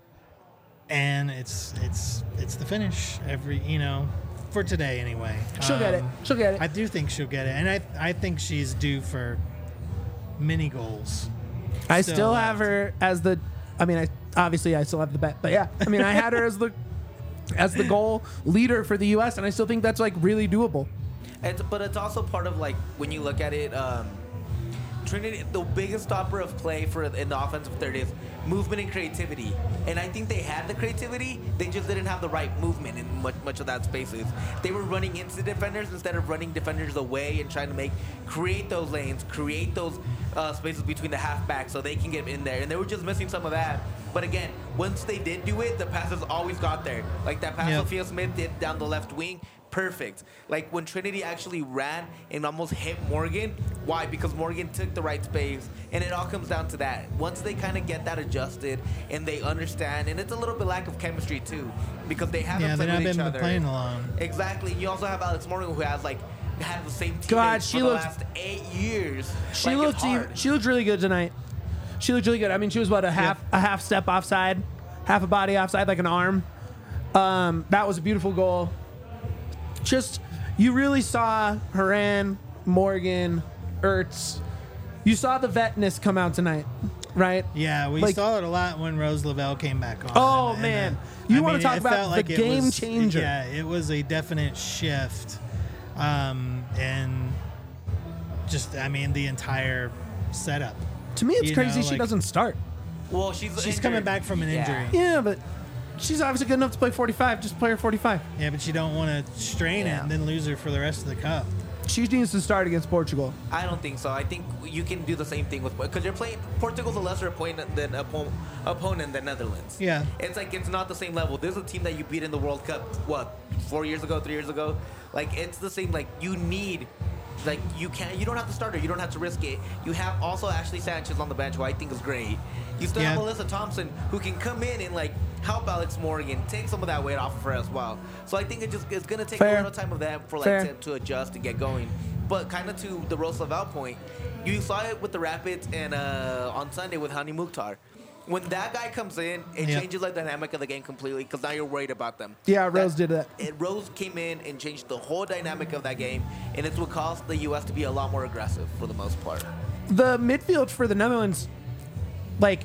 and it's it's it's the finish every you know for today anyway. She'll get it. Um, She'll get it. I do think she'll get it, and I I think she's due for many goals. I still still left. have her as the. I mean, I obviously I still have the bet, but yeah, I mean, I had her as the as the goal leader for the U S, and I still think that's like really doable. it's, but it's also part of like when you look at it. Um, Trinity, the biggest stopper of play for in the offensive third is movement and creativity. And I think they had the creativity, they just didn't have the right movement in much much of that spaces. They were running into defenders instead of running defenders away and trying to make create those lanes, create those uh, spaces between the halfbacks so they can get in there. And they were just missing some of that. But again, once they did do it, the passes always got there. Like that pass Yep. Sophia Smith did down the left wing. perfect. Like when Trinity actually ran and almost hit Morgan. Why? Because Morgan took the right space, and it all comes down to that. Once they kind of get that adjusted and they understand, and it's a little bit lack of chemistry too, because they haven't Yeah, played they've not with each been other. playing along. Exactly. You also have Alex Morgan, who has like had the same team God, for she the looks- last eight years. She Like, looked it's hard. she looked really good tonight. She looked really good. I mean, she was what a half a half step offside, half a body offside, like an arm. Um, that was a beautiful goal. Just you really saw Haran, Morgan, Ertz. You saw the vetness come out tonight, right? Yeah, we Like- saw it a lot when Rose Lavelle came back on. Oh, And- and, man. uh, You I wanna mean, talk it about felt the like it game was- changer. Yeah, it was a definite shift. Um, and just, I mean, the entire setup. To me, it's You crazy know, she like- doesn't start. Well, she's She's injured. coming back from an Yeah. injury. Yeah, but she's obviously good enough to play forty-five. Just play her forty-five. Yeah, but you don't want to strain Yeah. it and then lose her for the rest of the cup. She needs to start against Portugal. I don't think so. I think you can do the same thing with because you're playing Portugal's a lesser opponent than oppo- opponent than Netherlands. Yeah. it's like it's not the same level. This is a team that you beat in the World Cup. What four years ago, three years ago? Like it's the same. Like you need. Like you can't, you don't have to start her. You don't have to risk it. You have also Ashley Sanchez on the bench, who I think is great. You still have Yeah. Melissa Thompson, who can come in and like help Alex Morgan, take some of that weight off of her as well. So I think it just it's gonna take Fair. a little time of that for like Fair. to, to adjust and get going. But kind of to the Rose Lavelle point, you saw it with the Rapids and uh, on Sunday with Hani Mukhtar. When that guy comes in, it Yeah. changes the dynamic of the game completely because now you're worried about them. Yeah, Rose did that. It, Rose came in and changed the whole dynamic of that game, and it's what caused the U S to be a lot more aggressive for the most part. The midfield for the Netherlands, like,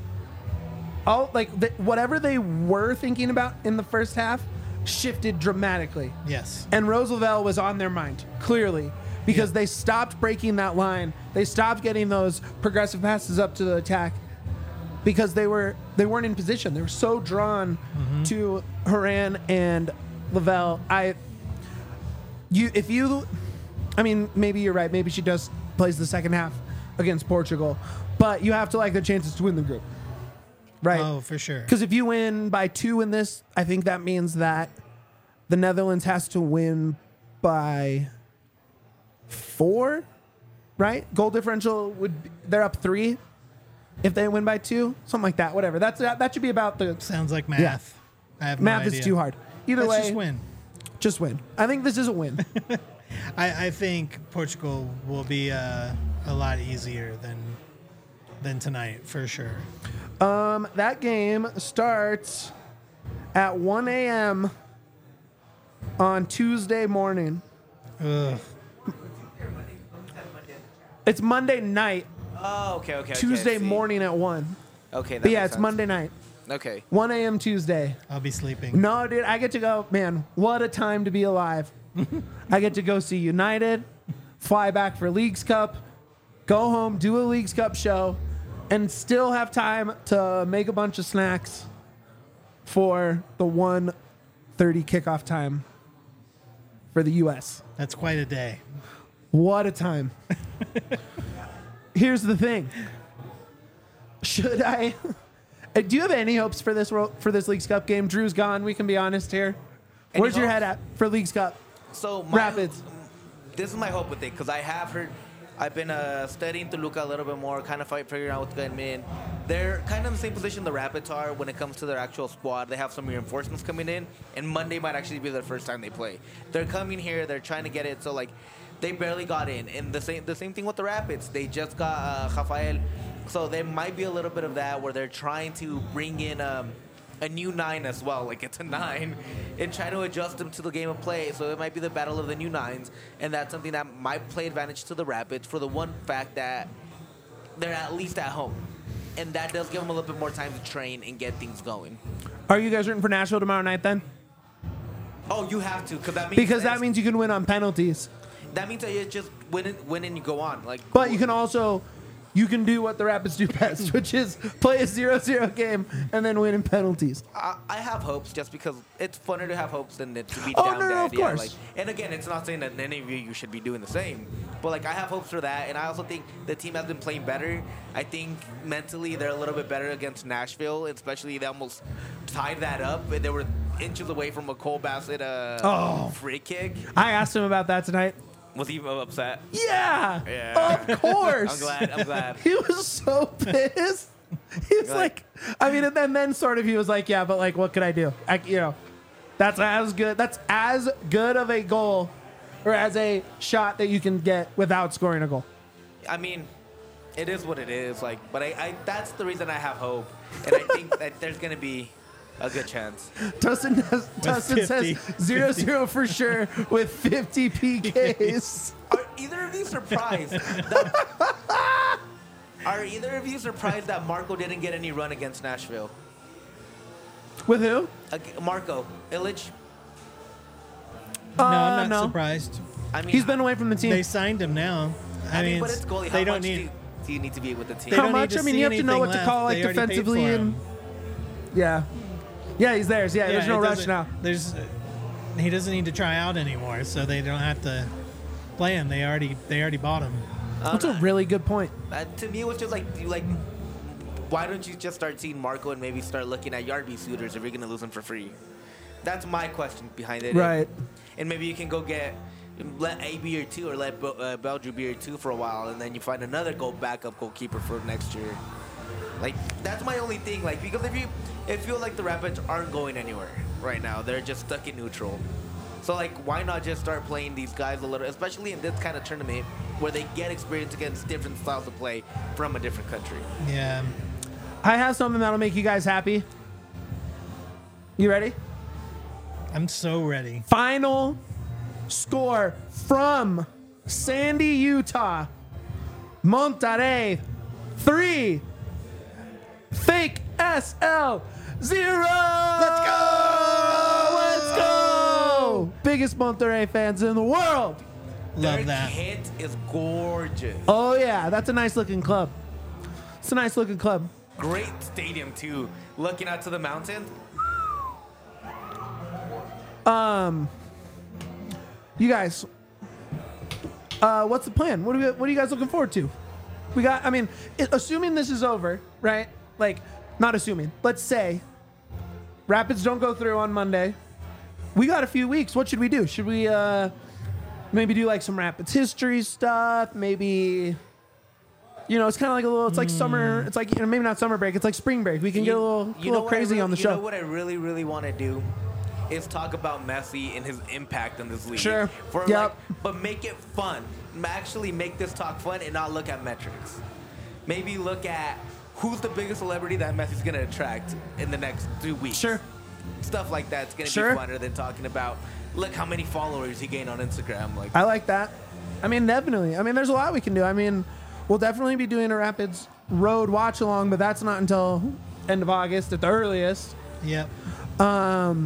all like the, whatever they were thinking about in the first half, shifted dramatically. Yes. And Rose Lavelle was on their mind, clearly, because Yeah. they stopped breaking that line. They stopped getting those progressive passes up to the attack because they were they weren't in position. They were so drawn to Haran and Lavelle. I you if you I mean, maybe you're right. Maybe she does plays the second half against Portugal, but you have to like the chances to win the group. Right? Oh, for sure. Because if you win by two in this, I think that means that the Netherlands has to win by four, right? Goal differential would be, they're up three if they win by two, something like that. Whatever. That's that, that should be about the Sounds like math. Yeah. I have no math is idea. too hard. Either Let's way, just win. Just win. I think this is a win. I, I think Portugal will be uh, a lot easier than than tonight for sure. um, that game starts at one a.m. on Tuesday morning. Ugh. It's Monday night, Oh, okay, okay. okay, Tuesday I see. morning at one. Okay, that But yeah, makes it's sense. Monday night, Okay. one a.m. Tuesday. I'll be sleeping. No, dude, I get to go. Man, what a time to be alive. I get to go see United, fly back for Leagues Cup, go home, do a Leagues Cup show, and still have time to make a bunch of snacks for the one thirty kickoff time for the U S. That's quite a day. What a time. Here's the thing. Should I Uh, do you have any hopes for this ro- for this Leagues Cup game? Drew's gone, we can be honest here. Any Where's your hopes? head at for Leagues Cup? So my, Rapids. This is my hope with it because I have heard, I've been uh, studying Toluca a little bit more, kind of fight, figuring out what's going in. They're kind of in the same position the Rapids are when it comes to their actual squad. They have some reinforcements coming in, and Monday might actually be their first time they play. They're coming here, they're trying to get it, so like they barely got in. And the same the same thing with the Rapids. They just got uh, Rafael, so there might be a little bit of that where they're trying to bring in. Um, a new nine as well, like it's a nine, and try to adjust them to the game of play. So it might be the battle of the new nines, and that's something that might play advantage to the Rapids for the one fact that they're at least at home, and that does give them a little bit more time to train and get things going. Are you guys rooting for Nashville tomorrow night then? Oh, you have to, because that means Because that means you can win on penalties. that means that you just win it, win and you go on. Like, But you can also you can do what the Rapids do best, which is play a zero zero game and then win in penalties. I, I have hopes just because it's funner to have hopes than it to be Oh, down no, no, bad. of Yeah, course. like, and again, it's not saying that any of you, you should be doing the same. But like I have hopes for that, and I also think the team has been playing better. I think mentally they're a little bit better against Nashville, especially they almost tied that up, and they were inches away from a Cole Bassett uh, Oh. free kick. I asked him about that tonight. Was he upset? Yeah, Yeah. of course. I'm glad. I'm glad. He was so pissed. He was like, I mean, and then, then sort of he was like, yeah, but like, what could I do? I, you know, that's as good. That's as good of a goal, or as a shot that you can get without scoring a goal. I mean, it is what it is. Like, but I, I that's the reason I have hope, and I think that there's gonna be a good chance. Dustin, does, Dustin says fifty. zero zero for sure with fifty P Ks. Are either of you surprised? that, are either of you surprised that Marco didn't get any run against Nashville? With who? Ag- Marco Illich. No, Uh, I'm not no. surprised. I mean, He's been away from the team. They signed him now. I, I mean, mean, but it's, it's goalie. they How don't much need. do, you, do you need to be with the team? They How don't much? need to I mean, see you have to know anything what to left. call, like, They already paid defensively for and- him. yeah, yeah, he's theirs. Yeah, there's Yeah, no it rush doesn't- now. There's, he doesn't need to try out anymore, so they don't have to play him. They already they already bought him. That's a really good point. Uh, to me, it was just like, you like, why don't you just start seeing Marco and maybe start looking at Yarby suitors if you're gonna lose him for free? That's my question behind it. Right. And maybe you can go get let A be your two or let Bel- uh, Belgium be your two for a while, and then you find another goal backup goalkeeper for next year. Like that's my only thing. Like because if you it feels like the Rapids aren't going anywhere right now, they're just stuck in neutral. So like, why not just start playing these guys a little, especially in this kind of tournament where they get experience against different styles of play from a different country. Yeah. I have something that'll make you guys happy. You ready? I'm so ready. Final score from Sandy, Utah. Monterrey three. Fake S L zero. Let's go! Let's go! Biggest Monterrey fans in the world. Love Their that. kit is gorgeous. Oh yeah, that's a nice looking club. It's a nice looking club. Great stadium too. Looking out to the mountain. Um, you guys, uh, what's the plan? What are we, what are you guys looking forward to? We got. I mean, it, assuming this is over, right? Like, not assuming. Let's say Rapids don't go through on Monday. We got a few weeks. What should we do? Should we uh, maybe do like some Rapids history stuff? Maybe. You know, it's kind of like a little. It's like summer. It's like, you know, maybe not summer break. It's like spring break. We can get a little, a little what I crazy really- on the you show. know what I really, really want to do is talk about Messi and his impact in this league. Sure. For Yep. like, but make it fun. Actually, make this talk fun and not look at metrics. Maybe look at who's the biggest celebrity that Messi's gonna attract in the next two weeks. Sure. Stuff like that's gonna Sure. be funner than talking about look how many followers he gained on Instagram. Like, I like that. I mean, definitely. I mean, there's a lot we can do. I mean, we'll definitely be doing a Rapids Road watch along, but that's not until end of August at the earliest. Yep. Um,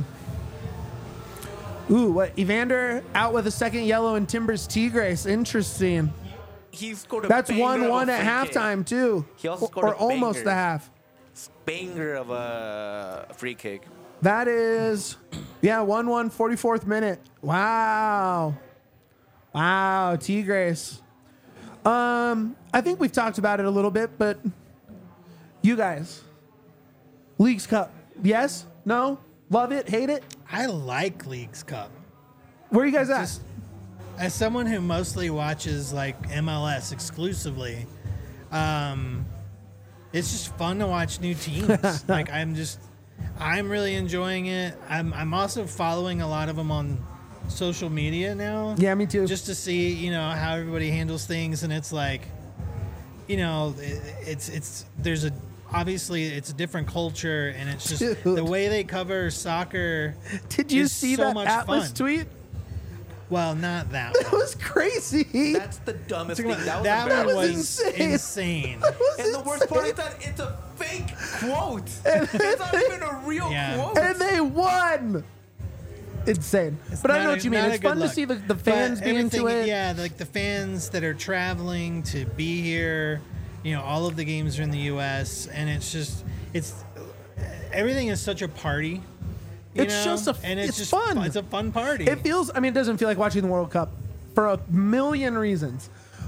ooh, what? Evander out with a second yellow and Timbers Tigres. Interesting. he scored a That's banger of one a one at free kick. halftime too, He also or, scored or a almost banger. a half. Banger of a free kick. That is, yeah, one one, forty-fourth minute. Wow. Wow, Tigres. Um, I think we've talked about it a little bit, but you guys, Leagues Cup, yes? No? Love it? Hate it? I like Leagues Cup. Where are you guys at? Just as someone who mostly watches like M L S exclusively, um, it's just fun to watch new teams. Like I'm just, I'm really enjoying it. I'm I'm also following a lot of them on social media now. Yeah, me too. Just to see, you know, how everybody handles things, and it's like, you know, it, it's it's there's a obviously it's a different culture, and it's just Dude. the way they cover soccer. Did you is see so that much Atlas fun. tweet? Well, not that That one. was crazy. That's the dumbest thing. That was that embarrassing. one was was insane. insane. That was And the worst part is insane. that it's a fake quote. It's not even a real Yeah. quote. And they won. Insane. But I Not know a- what you mean. not a It's good fun to look. see the, the But fans be into everything- it. Yeah, like the fans that are traveling to be here. You know, all of the games are in the U S, and it's just it's everything is such a party. You It's know? just a- and it's, it's just fun. It's a fun party. It feels, I mean, it doesn't feel like watching the World Cup for a million reasons.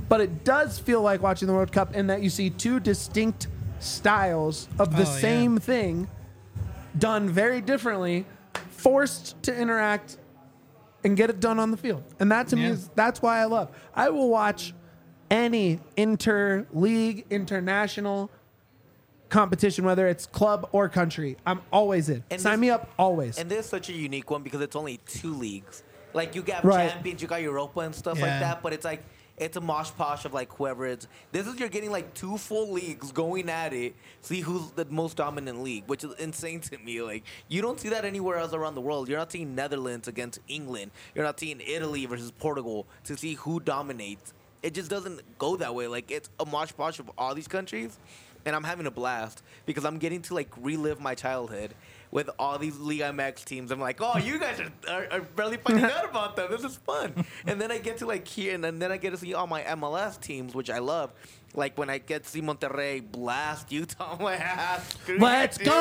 but it does feel like watching the World Cup in that you see two distinct styles of the Oh, yeah. same thing done very differently, forced to interact and get it done on the field. And that to me Yeah. is that's why I love. I will watch any inter-league, international competition, whether it's club or country. I'm always in. And Sign this- me up always. And this is such a unique one because it's only two leagues. Like you got Right. champions, you got Europa and stuff like Yeah. that, but it's like it's a mosh posh of like whoever it's. This is you're getting like two full leagues going at it. See who's the most dominant league, which is insane to me. Like you don't see that anywhere else around the world. You're not seeing Netherlands against England. You're not seeing Italy versus Portugal to see who dominates. It just doesn't go that way. Like it's a mosh posh of all these countries, and I'm having a blast because I'm getting to like relive my childhood with all these Liga M X teams. I'm like, oh, you guys are, are, are barely finding out about them. This is fun. And then I get to like hear, and then, then I get to see all my M L S teams, which I love. Like when I get to see Monterrey blast Utah, I'm like, ah, screw you, Let's dude. go!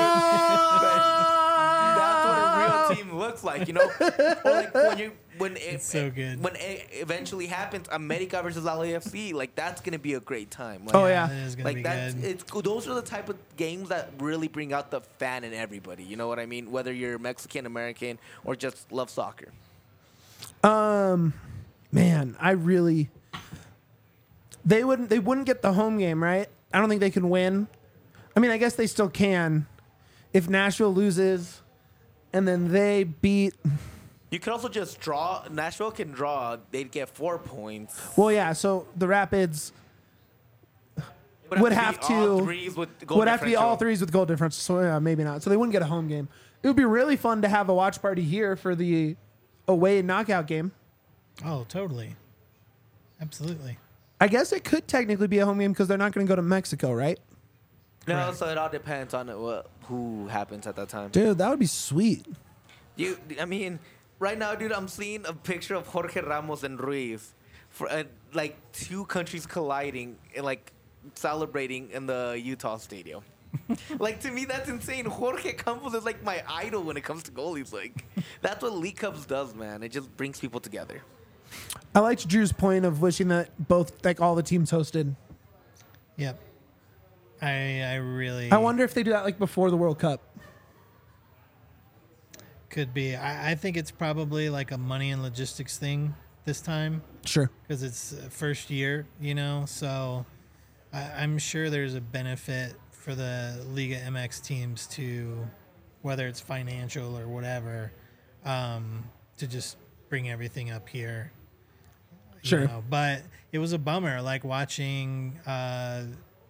That's what a real team looks like, you know. Or like when you when it, It's so good. when it eventually happens, America versus L A F C, like that's gonna be a great time. Like, Oh, yeah. It is gonna like be that's good. it's cool. Those are the type of games that really bring out the fan in everybody. You know what I mean? Whether you're Mexican, American, or just love soccer. Um, man, I really. They wouldn't. They wouldn't get the home game, right? I don't think they can win. I mean, I guess they still can, if Nashville loses, and then they beat. You could also just draw. Nashville can draw. They'd get four points. Well, yeah. So the Rapids Would would be have all to threes with goal would have to be all differential. threes with goal difference. So yeah, maybe not. So they wouldn't get a home game. It would be really fun to have a watch party here for the away knockout game. Oh, totally. Absolutely. I guess it could technically be a home game because they're not going to go to Mexico, right? No, Correct. so it all depends on what, who happens at that time. Dude, that would be sweet. You, I mean, right now, dude, I'm seeing a picture of Jorge Ramos and Ruiz, for uh, like two countries colliding and like celebrating in the Utah stadium. Like to me, that's insane. Jorge Campos is like my idol when it comes to goalies. Like that's what League Cups does, man. It just brings people together. I liked Drew's point of wishing that both, like all the teams hosted. Yep. I I really I wonder if they do that like before the World Cup. could be. I, I think it's probably like a money and logistics thing this time Sure. because it's uh, first year, you know. So I, I'm sure there's a benefit for the Liga M X teams to, whether it's financial or whatever, um, to just bring everything up here. you Sure. know. But it was a bummer, like watching uh,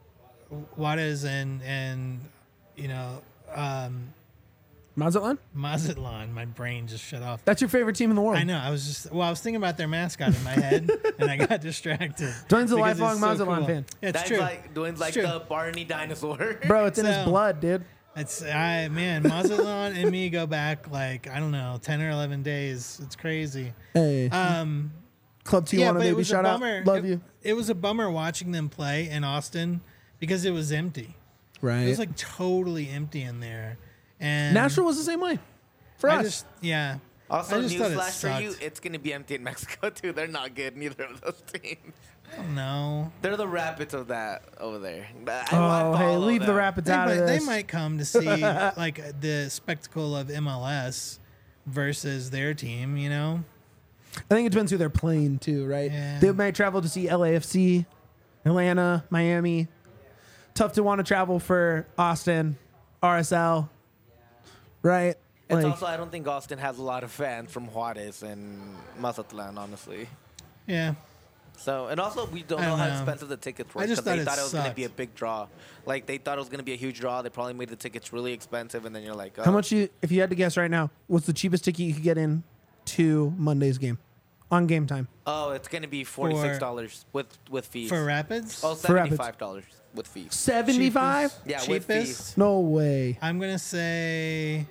Juarez and and you know um, Mazatlan? Mazatlan. My brain just shut off. That's your favorite team in the world. I know. I was just well. I was thinking about their mascot in my head, and I got distracted. Dwayne's a because lifelong it's so Mazatlan cool. fan. It's That's true. like doing like true. the Barney dinosaur. Bro, it's in his So- blood, dude. It's I man, Mazatlan and me go back like I don't know, ten or eleven days. It's crazy. Hey, Um, Club Tijuana, yeah, but it baby. was Shout a out. bummer. Love it, you. It was a bummer watching them play in Austin because it was empty. Right. It was like totally empty in there. And Nashville was the same way for I us. just yeah. Also, I just thought it newsflash for you, sucked. it's gonna be empty in Mexico too. They're not good, neither of those teams. No. They're the Rapids of that over there. I- I oh, hey, follow leave the them. Rapids They out might, of they this. might come to see like the spectacle of M L S versus their team, you know? I think it depends who they're playing too, right? Yeah. They might travel to see L A F C, Atlanta, Miami. Tough to want to travel for Austin, R S L, right? It's Like, also I don't think Austin has a lot of fans from Juarez and Mazatlan, honestly. Yeah. So and also we don't I know don't how know. expensive the tickets were I just they thought it thought it was gonna sucked. be a big draw. Like they thought it was gonna be a huge draw. They probably made the tickets really expensive, and then you're like, oh. how much you? If you had to guess right now, what's the cheapest ticket you could get in to Monday's game on game time? Oh, it's gonna be forty six dollars with with fees. For Rapids? oh, For Rapids. seventy five dollars with fees. Seventy-five? Cheapest- Yeah, with cheapest? fees. No way. I'm gonna say.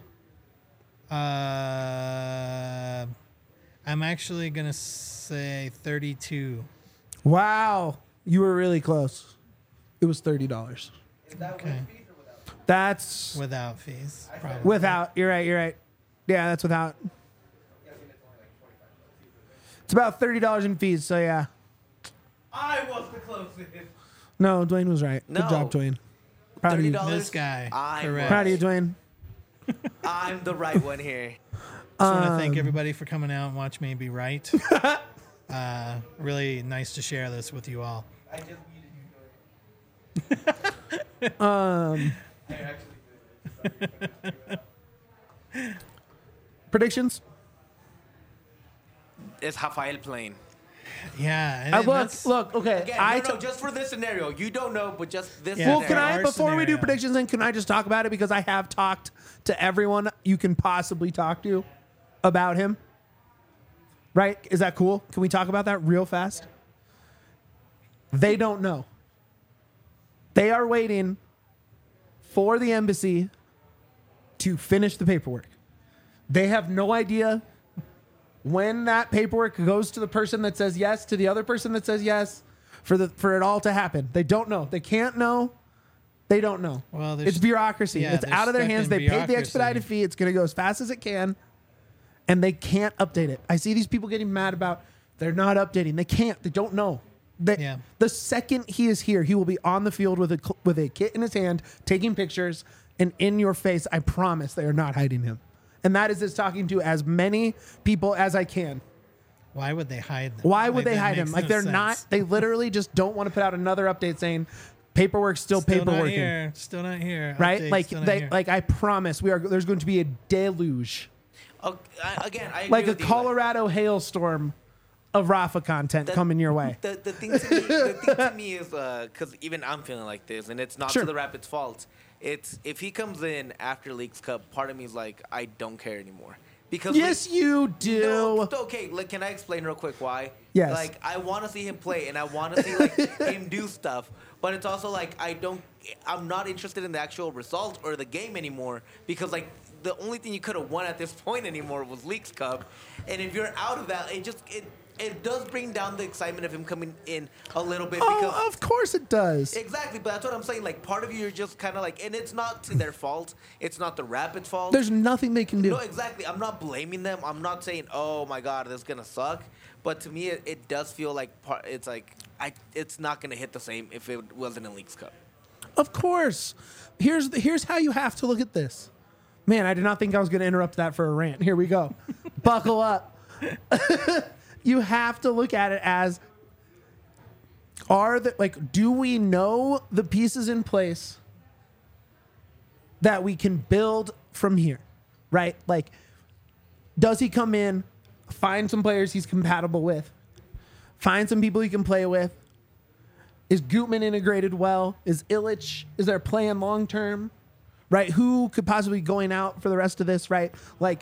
Uh, I'm actually gonna say thirty-two. Wow, you were really close. It was thirty dollars. Okay, That's without fees, probably. without. You're right. You're right. Yeah, that's without. It's about thirty dollars in fees. So yeah. I was the closest. No, Dwayne was right. No. Good job, Dwayne. Proud of Thirty you. dollars. This guy. I Correct. Proud of you, Dwayne. I'm the right one here. Just want to Um, thank everybody for coming out and watch me be right. uh, really nice to share this with you all. I just muted you. Um, I actually predictions? It's Rafael playing. Yeah. and I look, that's- look, okay. Again, I no, no, t- just for this scenario. You don't know, but just this Yeah, well, scenario. can I, our before we do scenario. predictions, then can I just talk about it? Because I have talked to everyone you can possibly talk to about him. Right? Is that cool? Can we talk about that real fast? They don't know. They are waiting for the embassy to finish the paperwork. They have no idea when that paperwork goes to the person that says yes, to the other person that says yes, for the for it all to happen. They don't know. They can't know. They don't know. Well, there's- it's bureaucracy. yeah, it's they're out of their stuck hands. in They paid the bureaucracy. expedited fee. It's going to go as fast as it can, and they can't update it. I see these people getting mad about they're not updating. They can't. They don't know. They, Yeah. The second he is here, he will be on the field with a cl- with a kit in his hand, taking pictures, and in your face. I promise they are not hiding him. And that is just talking to as many people as I can. Why would they hide them? Why would Like, they that hide him? makes Like no they're sense. not. They literally just don't want to put out another update saying paperwork's still, Still not paperworking, here. Still not here. right? Update, like still not they, here. like I promise, we are. There's going to be a deluge, Oh, I, again, I agree like a with you, Colorado hailstorm of Rafa content That- coming your way. The, the thing to me, the thing to me is because even I'm feeling like this, and it's not Sure. to the Rapids' fault. It's if he comes in after Leagues Cup, part of me is like, I don't care anymore because Yes, you do. No, okay, like, can I explain real quick why? Yes. Like, I want to see him play, and I want to see like him do stuff, but it's also like I don't, I'm not interested in the actual result or the game anymore because like the only thing you could have won at this point anymore was Leagues Cup, and if you're out of that, it just it. It does bring down the excitement of him coming in a little bit because Oh, of course it does. exactly. But that's what I'm saying. Like part of you, you're just kind of like, and it's not to their fault. It's not the Rapids' fault. There's nothing they can do. No, exactly. I'm not blaming them. I'm not saying, oh my God, this is gonna suck. But to me, it, it does feel like part, it's like I. It's not gonna hit the same if it wasn't a Leagues Cup. Of course. Here's the, here's how you have to look at this. Man, I did not think I was going to interrupt that for a rant. Here we go. Buckle up. You have to look at it as are the like do we know the pieces in place that we can build from here? Right? Like does he come in, find some players he's compatible with, find some people he can play with? Is Gutman integrated well? Is Illich, is there plan long term? Right? Who could possibly be going out for the rest of this, right? Like,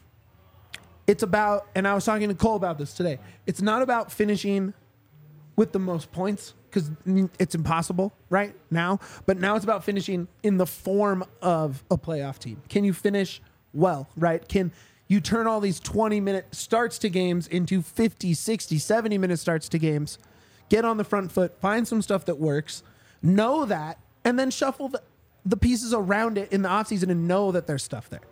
it's about, and I was talking to Cole about this today, it's not about finishing with the most points, because it's impossible right now, but now it's about finishing in the form of a playoff team. Can you finish well, right? Can you turn all these twenty minute starts to games into fifty, sixty, seventy minute starts to games? Get on the front foot, find some stuff that works, know that, and then shuffle the, the pieces around it in the offseason and know that there's stuff there.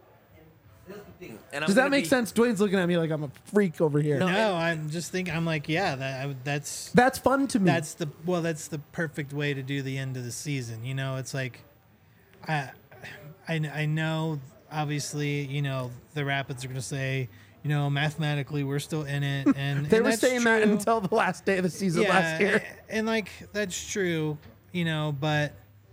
And I'm Does that gonna make be- sense? Dwayne's looking at me like I'm a freak over here. No. No, I'm just thinking. I'm like, yeah, that I, that's That's fun to me. that's the well, that's the perfect way to do the end of the season. You know, it's like, I, I, I know. Obviously, you know, the Rapids are going to say, you know, mathematically we're still in it, and they and were that's saying that true. until the last day of the season yeah, last year. and, and like that's true, you know, but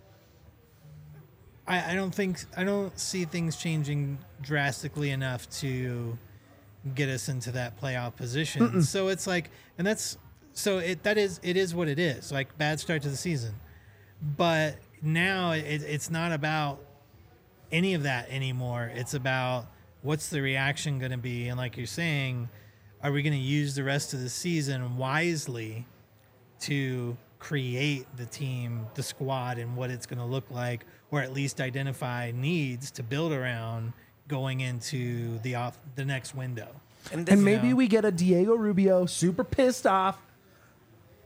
I, I don't think I don't see things changing drastically enough to get us into that playoff position. Mm-mm. So it's like, and that's so it that is it is what it is. Like bad start to the season, but now it, it's not about any of that anymore. It's about what's the reaction going to be, and like you're saying, are we going to use the rest of the season wisely to create the team, the squad, and what it's going to look like, or at least identify needs to build around going into the off the next window. And, this, And maybe know. we get a Diego Rubio super pissed off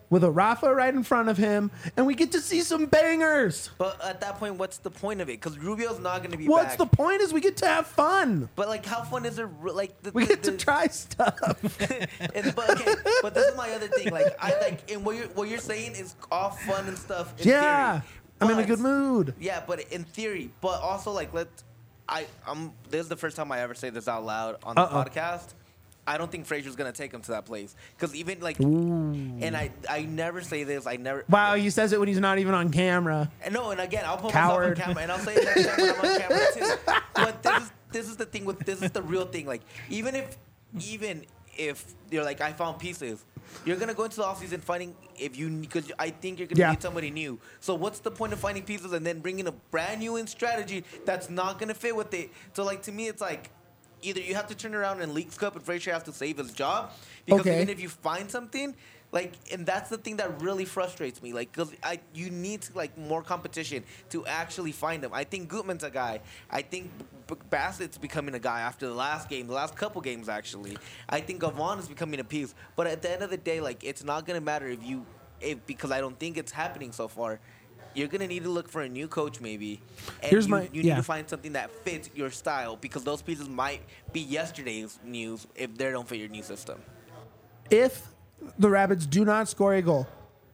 with a Rafa right in front of him, and we get to see some bangers. But at that point, what's the point of it? Because Rubio's not going to be What's back. the point is we get to have fun. But like, how fun is it? Like, the, We the, get to the- try stuff. and, but okay, but this is my other thing. Like, I like, and what you're what you're saying is all fun and stuff. In Yeah. theory. I'm in a But- good mood. Yeah, but in theory, but also like, let I I'm this is the first time I ever say this out loud on the Uh-oh. podcast. I don't think Frazier's gonna take him to that place because even like, and I I never say this. I never. Wow, he says it when he's not even on camera. And no, and again, I'll put Coward. myself on camera, and I'll say it next time when I'm on camera too. But this is this is the thing with this is the real thing. Like even if even if you're like I found pieces, you're gonna go into the offseason finding if you because I think you're gonna Yeah. need somebody new. So what's the point of finding pieces and then bringing a brand new in strategy that's not gonna fit with it? So like to me, it's like. Either you have to turn around in Leagues Cup and Frazier has to save his job because Okay. even if you find something, like, and that's the thing that really frustrates me, like, because I you need to, like more competition to actually find him. I think Gutman's a guy. I think B- Bassett's becoming a guy after the last game, the last couple games actually. I think Gavon is becoming a piece. But at the end of the day, like, it's not gonna matter if you, if because I don't think it's happening so far. You're gonna need to look for a new coach, maybe. And Here's you, my- you yeah. need to find something that fits your style because those pieces might be yesterday's news if they don't fit your new system. If the Rapids do not score a goal,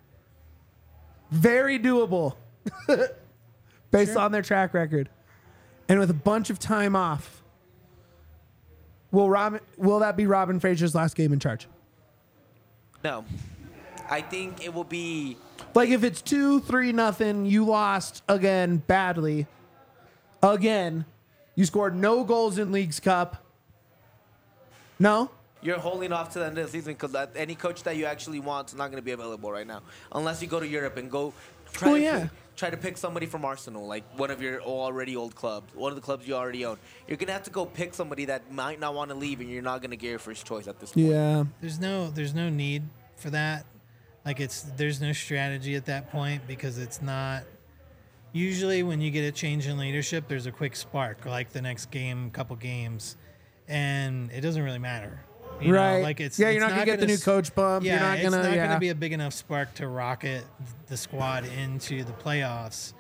very doable based Sure. on their track record, and with a bunch of time off, will Robin, will that be Robin Frazier's last game in charge? No, I think it will be. Like if it's two, three, nothing, you lost again badly. Again, you scored no goals in Leagues Cup. No? You're holding off to the end of the season because any coach that you actually want is not going to be available right now, unless you go to Europe and go try, Oh, to, yeah. pick, try to pick somebody from Arsenal, like one of your already old clubs, one of the clubs you already own. You're going to have to go pick somebody that might not want to leave, and you're not going to get your first choice at this point. Yeah. There's no there's no need for that. Like it's there's no strategy at that point because it's not. Usually when you get a change in leadership, there's a quick spark, like the next game, couple games, and it doesn't really matter. You know, Right. like it's Yeah, you're it's not gonna get the new s- coach bump. Yeah, You're not it's gonna- not yeah. gonna be a big enough spark to rocket the squad into the playoffs.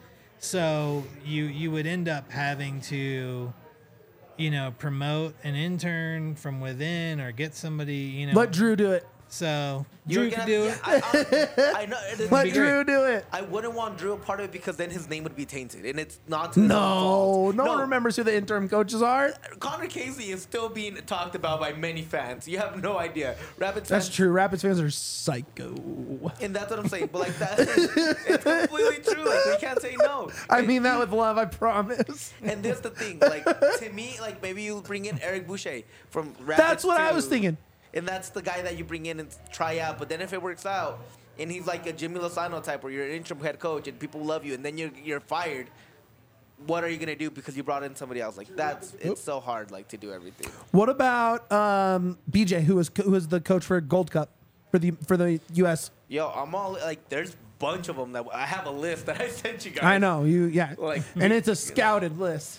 So you you would end up having to, you know, promote an intern from within or get somebody, you know. Let Drew do it. So You're Drew gonna- could do yeah, it. I, I, I know. it- Let be Drew do it. I wouldn't want Drew a part of it because then his name would be tainted, and it's not. To his own No, fault. no one remembers who the interim coaches are. Connor Casey is still being talked about by many fans. You have no idea. Rapids That's fans, true. Rapids fans are psycho. and that's what I'm saying. But like that, it's completely true. Like we can't say no. I mean that with love, I promise. And there's the thing. Like to me, like maybe you bring in Eric Boucher from Rapids. That's what I too. was thinking. And that's the guy that you bring in and try out. But then if it works out, and he's like a Jimmy Lozano type, where you're an interim head coach and people love you, and then you're you're fired. What are you gonna do because you brought in somebody else? Like that's it's so hard, like to do everything. What about um, B J, who was who was the coach for Gold Cup for the for the U S? Yo, I'm all like, there's a bunch of them that I have a list that I sent you guys. I know you, yeah, Like, and it's a scouted list.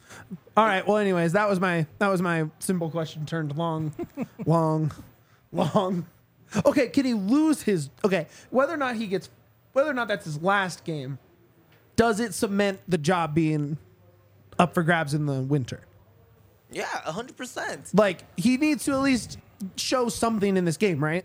All right. Well, anyways, that was my that was my simple question turned long, long, long. Okay, can he lose his? Okay, whether or not he gets, whether or not that's his last game, does it cement the job being up for grabs in the winter? Yeah, a hundred percent. Like he needs to at least show something in this game, right?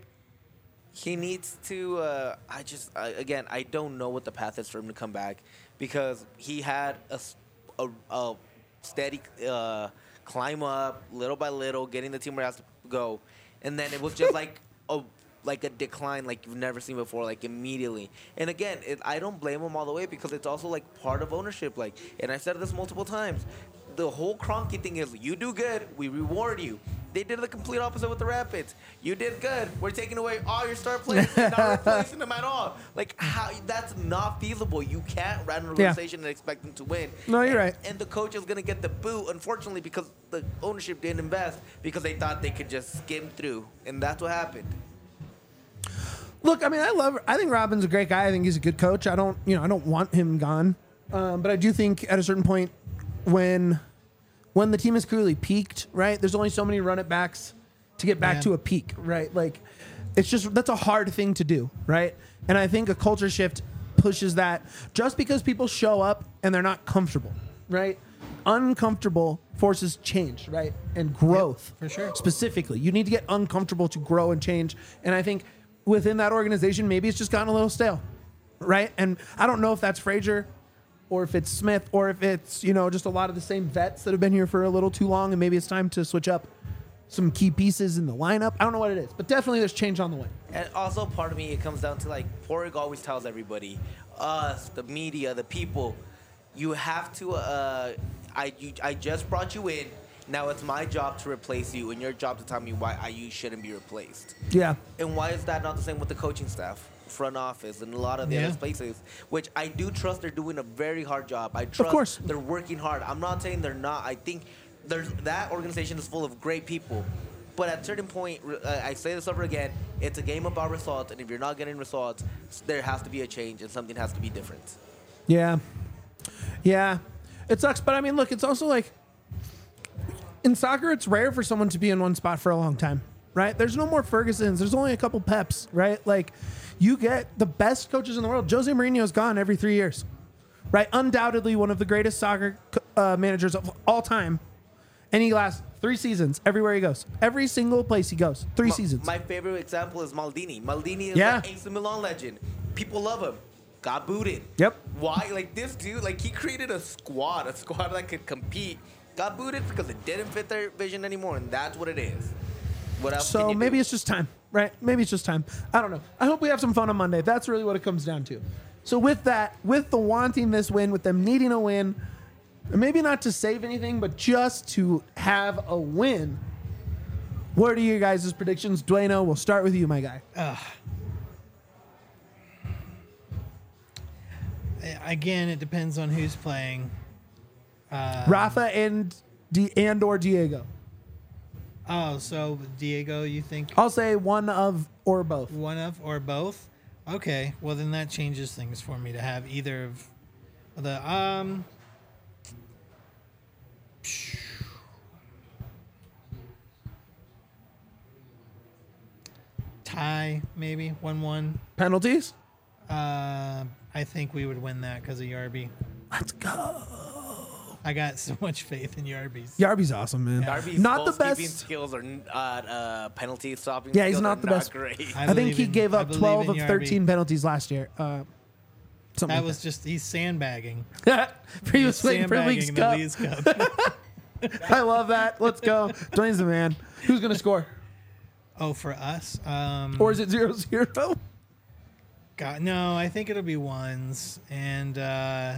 He needs to. Uh, I just I, again, I don't know what the path is for him to come back because he had a s- a, a steady uh, climb up, little by little, getting the team where it has to go, and then it was just like a like a decline like you've never seen before, like immediately. And again, it, I don't blame him all the way because it's also like part of ownership. Like, and I said this multiple times. The whole Kroenke thing is you do good, we reward you. They did the complete opposite with the Rapids. You did good, we're taking away all your star players and not replacing them at all. Like how that's not feasible. You can't run an organization and expect them to win. No, you're And- right. And the coach is gonna get the boot, unfortunately, because the ownership didn't invest because they thought they could just skim through, and that's what happened. Look, I mean, I love. I think Robin's a great guy. I think he's a good coach. I don't, you know, I don't want him gone, um, but I do think at a certain point, when when the team has clearly peaked, right? There's only so many run it backs to get back Yeah. to a peak, right? Like It's just that's a hard thing to do, right? And I think a culture shift pushes that just because people show up and they're not comfortable, right? Uncomfortable forces change, right? And growth. Yep, for sure. Specifically, you need to get uncomfortable to grow and change. And I think within that organization, maybe it's just gotten a little stale, right? And I don't know if that's Frazier or if it's Smith or if it's, you know, just a lot of the same vets that have been here for a little too long and maybe it's time to switch up some key pieces in the lineup. I don't know what it is, but definitely there's change on the way. And also, part of me, it comes down to like Porig always tells everybody, us, the media, the people, you have to. Uh, I you, I just brought you in. Now it's my job to replace you, and your job to tell me why I, you shouldn't be replaced. Yeah. And why is that not the same with the coaching staff, front office, and a lot of the Yeah. other places? Which I do trust they're doing a very hard job. I trust course. they're working hard. I'm not saying they're not. I think there's that organization is full of great people. But at a certain point, uh, I say this over again, it's a game about results, and if you're not getting results, there has to be a change, and something has to be different. Yeah. Yeah. It sucks, but I mean, look, it's also like in soccer, it's rare for someone to be in one spot for a long time, right? There's no more Fergusons. There's only a couple Peps, right? Like, you get the best coaches in the world. Jose Mourinho's gone every three years, right? Undoubtedly one of the greatest soccer uh, managers of all time. And he lasts three seasons everywhere he goes. Every single place he goes. Three My, seasons. my favorite example is Maldini. Maldini is Yeah. an A C Milan legend. People love him. Got booted. Yep. Why? Like, this dude, like, he created a squad, a squad that could compete. Got booted because it didn't fit their vision anymore, and that's what it is. What else can So you maybe do? it's just time, right? Maybe it's just time. I don't know. I hope we have some fun on Monday. That's really what it comes down to. So with that, with the wanting this win, with them needing a win, maybe not to save anything, but just to have a win, what are your guys' predictions? Dueno, we'll start with you, my guy. Again, it depends on who's playing. Um, Rafa and D- and or Diego. Oh, so Diego, you think I'll say one of or both. one of or both? Okay, well then that changes things for me to have either of the um. Tie maybe one one. Penalties? Uh, I think we would win that because of Yarby. Let's go. I got so much faith in Yarby's. Yarby's awesome, man. Darby's Not the goalkeeping best. skills or uh, uh, penalty stopping. Yeah, he's skills not are the best. Great. I I, think believe he in- gave I up believe twelve in of Yarby. thirteen penalties last year. Uh, something That like was just he's sandbagging. that. he was He's waiting for League's sandbagging the Cup. League's Cup. I love that. Let's go. Dwayne's the man. Who's going to score? Oh, for us? Um, Or is it zero zero? God, no, I think it'll be ones. And, uh,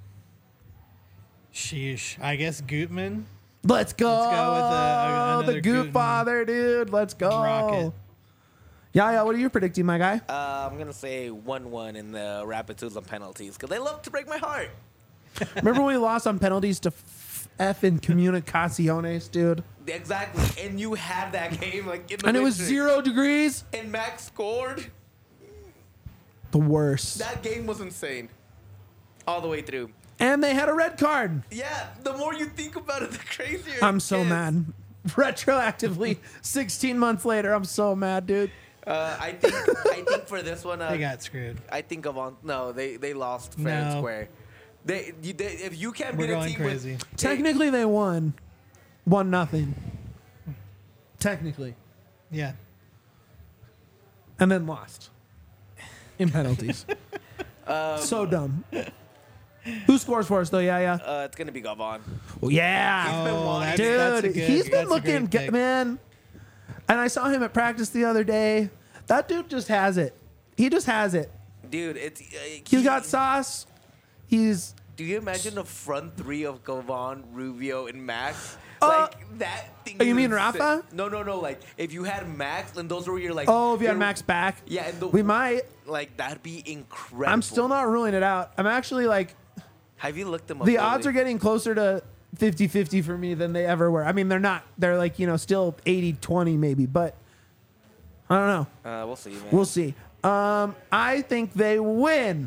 sheesh. I guess Gutman. Let's go. Let's go with, uh, the another Goot Guten Father, dude. Let's go. Rocket. Yeah, yeah. What are you predicting, my guy? Uh, I'm going to say one one in the Rapids on penalties because they love to break my heart. Remember when we lost on penalties to f- effing Comunicaciones, dude? Exactly. And you had that game like in the And it was winter. zero degrees. And Max scored. The worst. That game was insane. All the way through. And they had a red card. Yeah, the more you think about it, the crazier I'm it so gets. mad. Retroactively, sixteen months later, I'm so mad, dude. Uh, I think I think for this one, uh, They got screwed. I think of on no, they they lost fair and No. square. They, you, they if you can't We're beat a going team crazy. with Technically, they won. One nothing. Technically. Yeah. And then lost. In penalties. Um, so dumb. Who scores for us, though? Yeah, yeah. uh, it's gonna be Gavon. Well, yeah. He's been Oh, wanting- that's, Dude, that's a good, he's been that's a looking great good, pick. man. And I saw him at practice the other day. That dude just has it. He just has it. Dude, it's uh, He's he- got sauce. He's Do you imagine the front three of Gavon, Rubio, and Max? Uh, Like that thing. oh, you is mean insane. Rafa? No, no, no. Like if you had Max, then those were your like. oh, if you had your- Max back, Yeah, and the, we might. like that'd be incredible. I'm still not ruling it out. I'm actually like Have you looked them up? the lately? odds are getting closer to fifty-fifty for me than they ever were. I mean, they're not. They're like, you know, still eighty twenty maybe, but I don't know. Uh, we'll see, man. We'll see. Um, I think they win.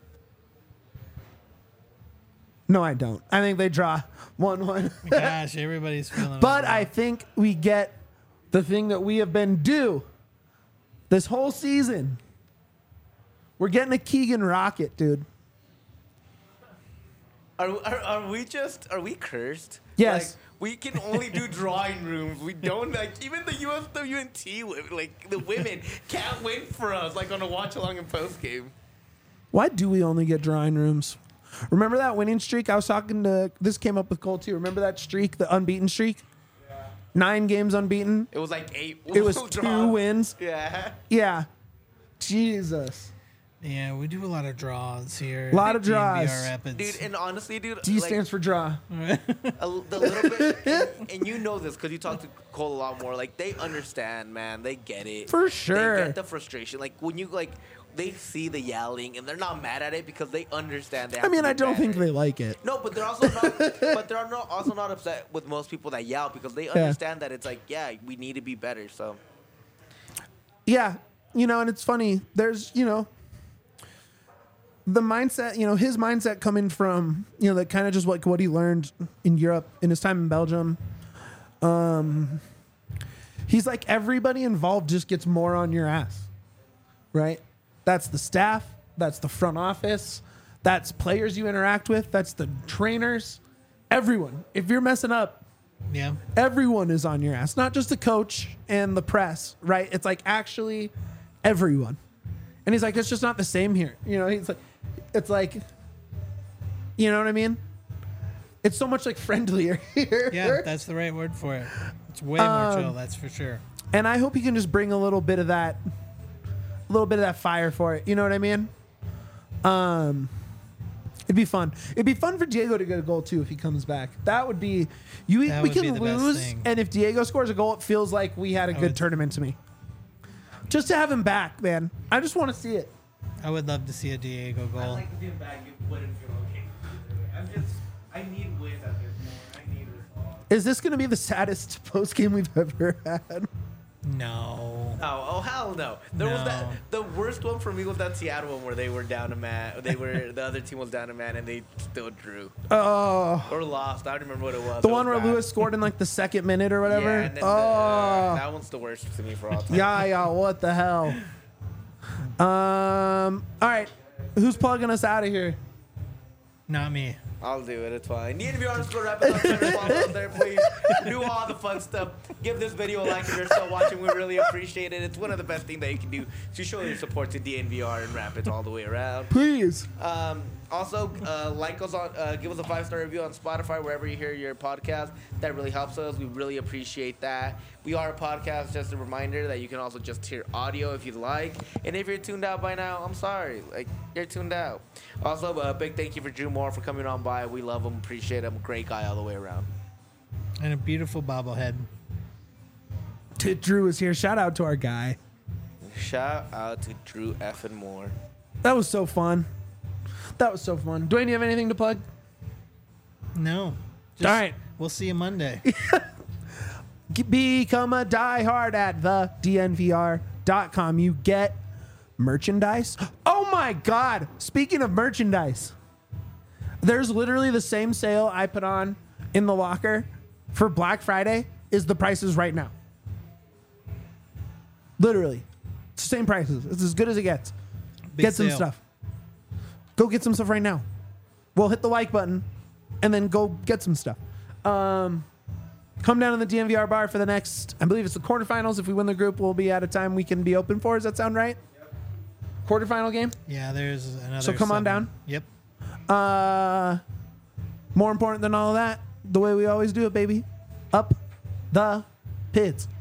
No, I don't. I think they draw one one. Gosh, everybody's feeling. But it. I think we get the thing that we have been due This whole season, we're getting a Keegan Rocket, dude. Are, are are we just are we cursed? Yes. Like, we can only do drawing rooms. We don't like even the U S W N T like the women can't win for us like on a watch along and post game. Why do we only get drawing rooms? Remember that winning streak? I was talking to this came up with Cole too. Remember that streak, the unbeaten streak? Yeah. Nine games unbeaten. It was like eight. It was two wins. Yeah. Yeah. Jesus. Yeah, we do a lot of draws here. A lot of D N V R draws. Rapids. Dude, and honestly, dude, D like, stands for draw. a, the little bit, and, and you know this because you talk to Cole a lot more. Like they understand, man. They get it For sure. They get the frustration. Like when you like, they see the yelling and they're not mad at it because they understand. They have I mean, to be I don't better. think they like it. No, but they're also not. but they're not, also not upset with most people that yell because they understand that it's like, yeah, we need to be better. So. Yeah, you know, and it's funny. There's, you know, the mindset, you know, his mindset coming from, you know, that kind of just like what he learned in Europe in his time in Belgium. Um, he's like, everybody involved just gets more on your ass, right? That's the staff. That's the front office. That's players you interact with. That's the trainers. Everyone. If you're messing up, Yeah. everyone is on your ass, not just the coach and the press, right? It's like actually everyone. And he's like, it's just not the same here. You know, he's like, it's like, you know what I mean? It's so much like friendlier here. Yeah, that's the right word for it. It's way more Um, chill, that's for sure. And I hope he can just bring a little bit of that, a little bit of that fire for it. You know what I mean? Um, it'd be fun. It'd be fun for Diego to get a goal too if he comes back. That would be. You That we would be can the best lose, thing. and if Diego scores a goal, it feels like we had a I good would- tournament to me. Just to have him back, man. I just want to see it. I would love to see a Diego I goal. like to be back. You wouldn't feel okay. I'm just. I need wins at this point. I need results. Is this going to be the saddest post game we've ever had? No. Oh, oh hell no! There was No. that. The worst one for me was that Seattle one where they were down a man. They were the other team was down a man and they still drew Oh, or lost. I don't remember what it was. the It one was where bad. Lewis scored in like the second minute or whatever. Yeah, and then the, oh, that one's the worst to me for all time. yeah, yeah. What the hell? Um. All right, who's plugging us out of here? Not me. I'll do it. It's fine. D N V underscore Rapids on Twitter. Follow us there, please. Do all the fun stuff. Give this video a like if you're still watching. We really appreciate it. It's one of the best things that you can do to show your support to D N V R and Rapids all the way around. Please. Um, also, uh, like us on, uh, give us a five star review on Spotify wherever you hear your podcast. That really helps us. We really appreciate that. We are a podcast. Just a reminder that you can also just hear audio if you'd like. And if you're tuned out by now, I'm sorry. Like you're tuned out. Also, a big thank you for Drew Moore for coming on by. We love him, appreciate him. Great guy all the way around. And a beautiful bobblehead. T- Drew is here. Shout out to our guy. Shout out to Drew effing Moore. That was so fun. That was so fun. Dwayne, you have anything to plug? No. Just, All right. We'll see you Monday. G- Become a diehard at the D N V R dot com. You get merchandise. Oh my God. Speaking of merchandise, there's literally the same sale I put on in the locker for Black Friday is the prices right now. Literally. It's the same prices. It's as good as it gets. Big Get some sale. stuff. Go get some stuff right now. We'll hit the like button and then go get some stuff. Um, come down to the D N V R bar for the next, I believe it's the quarterfinals. If we win the group, we'll be at a time we can be open for. Does that sound right? Yep. Quarterfinal game? Yeah, there's another. So come on seven. down. Yep. Uh, more important than all of that, the way we always do it, baby. Up the pits.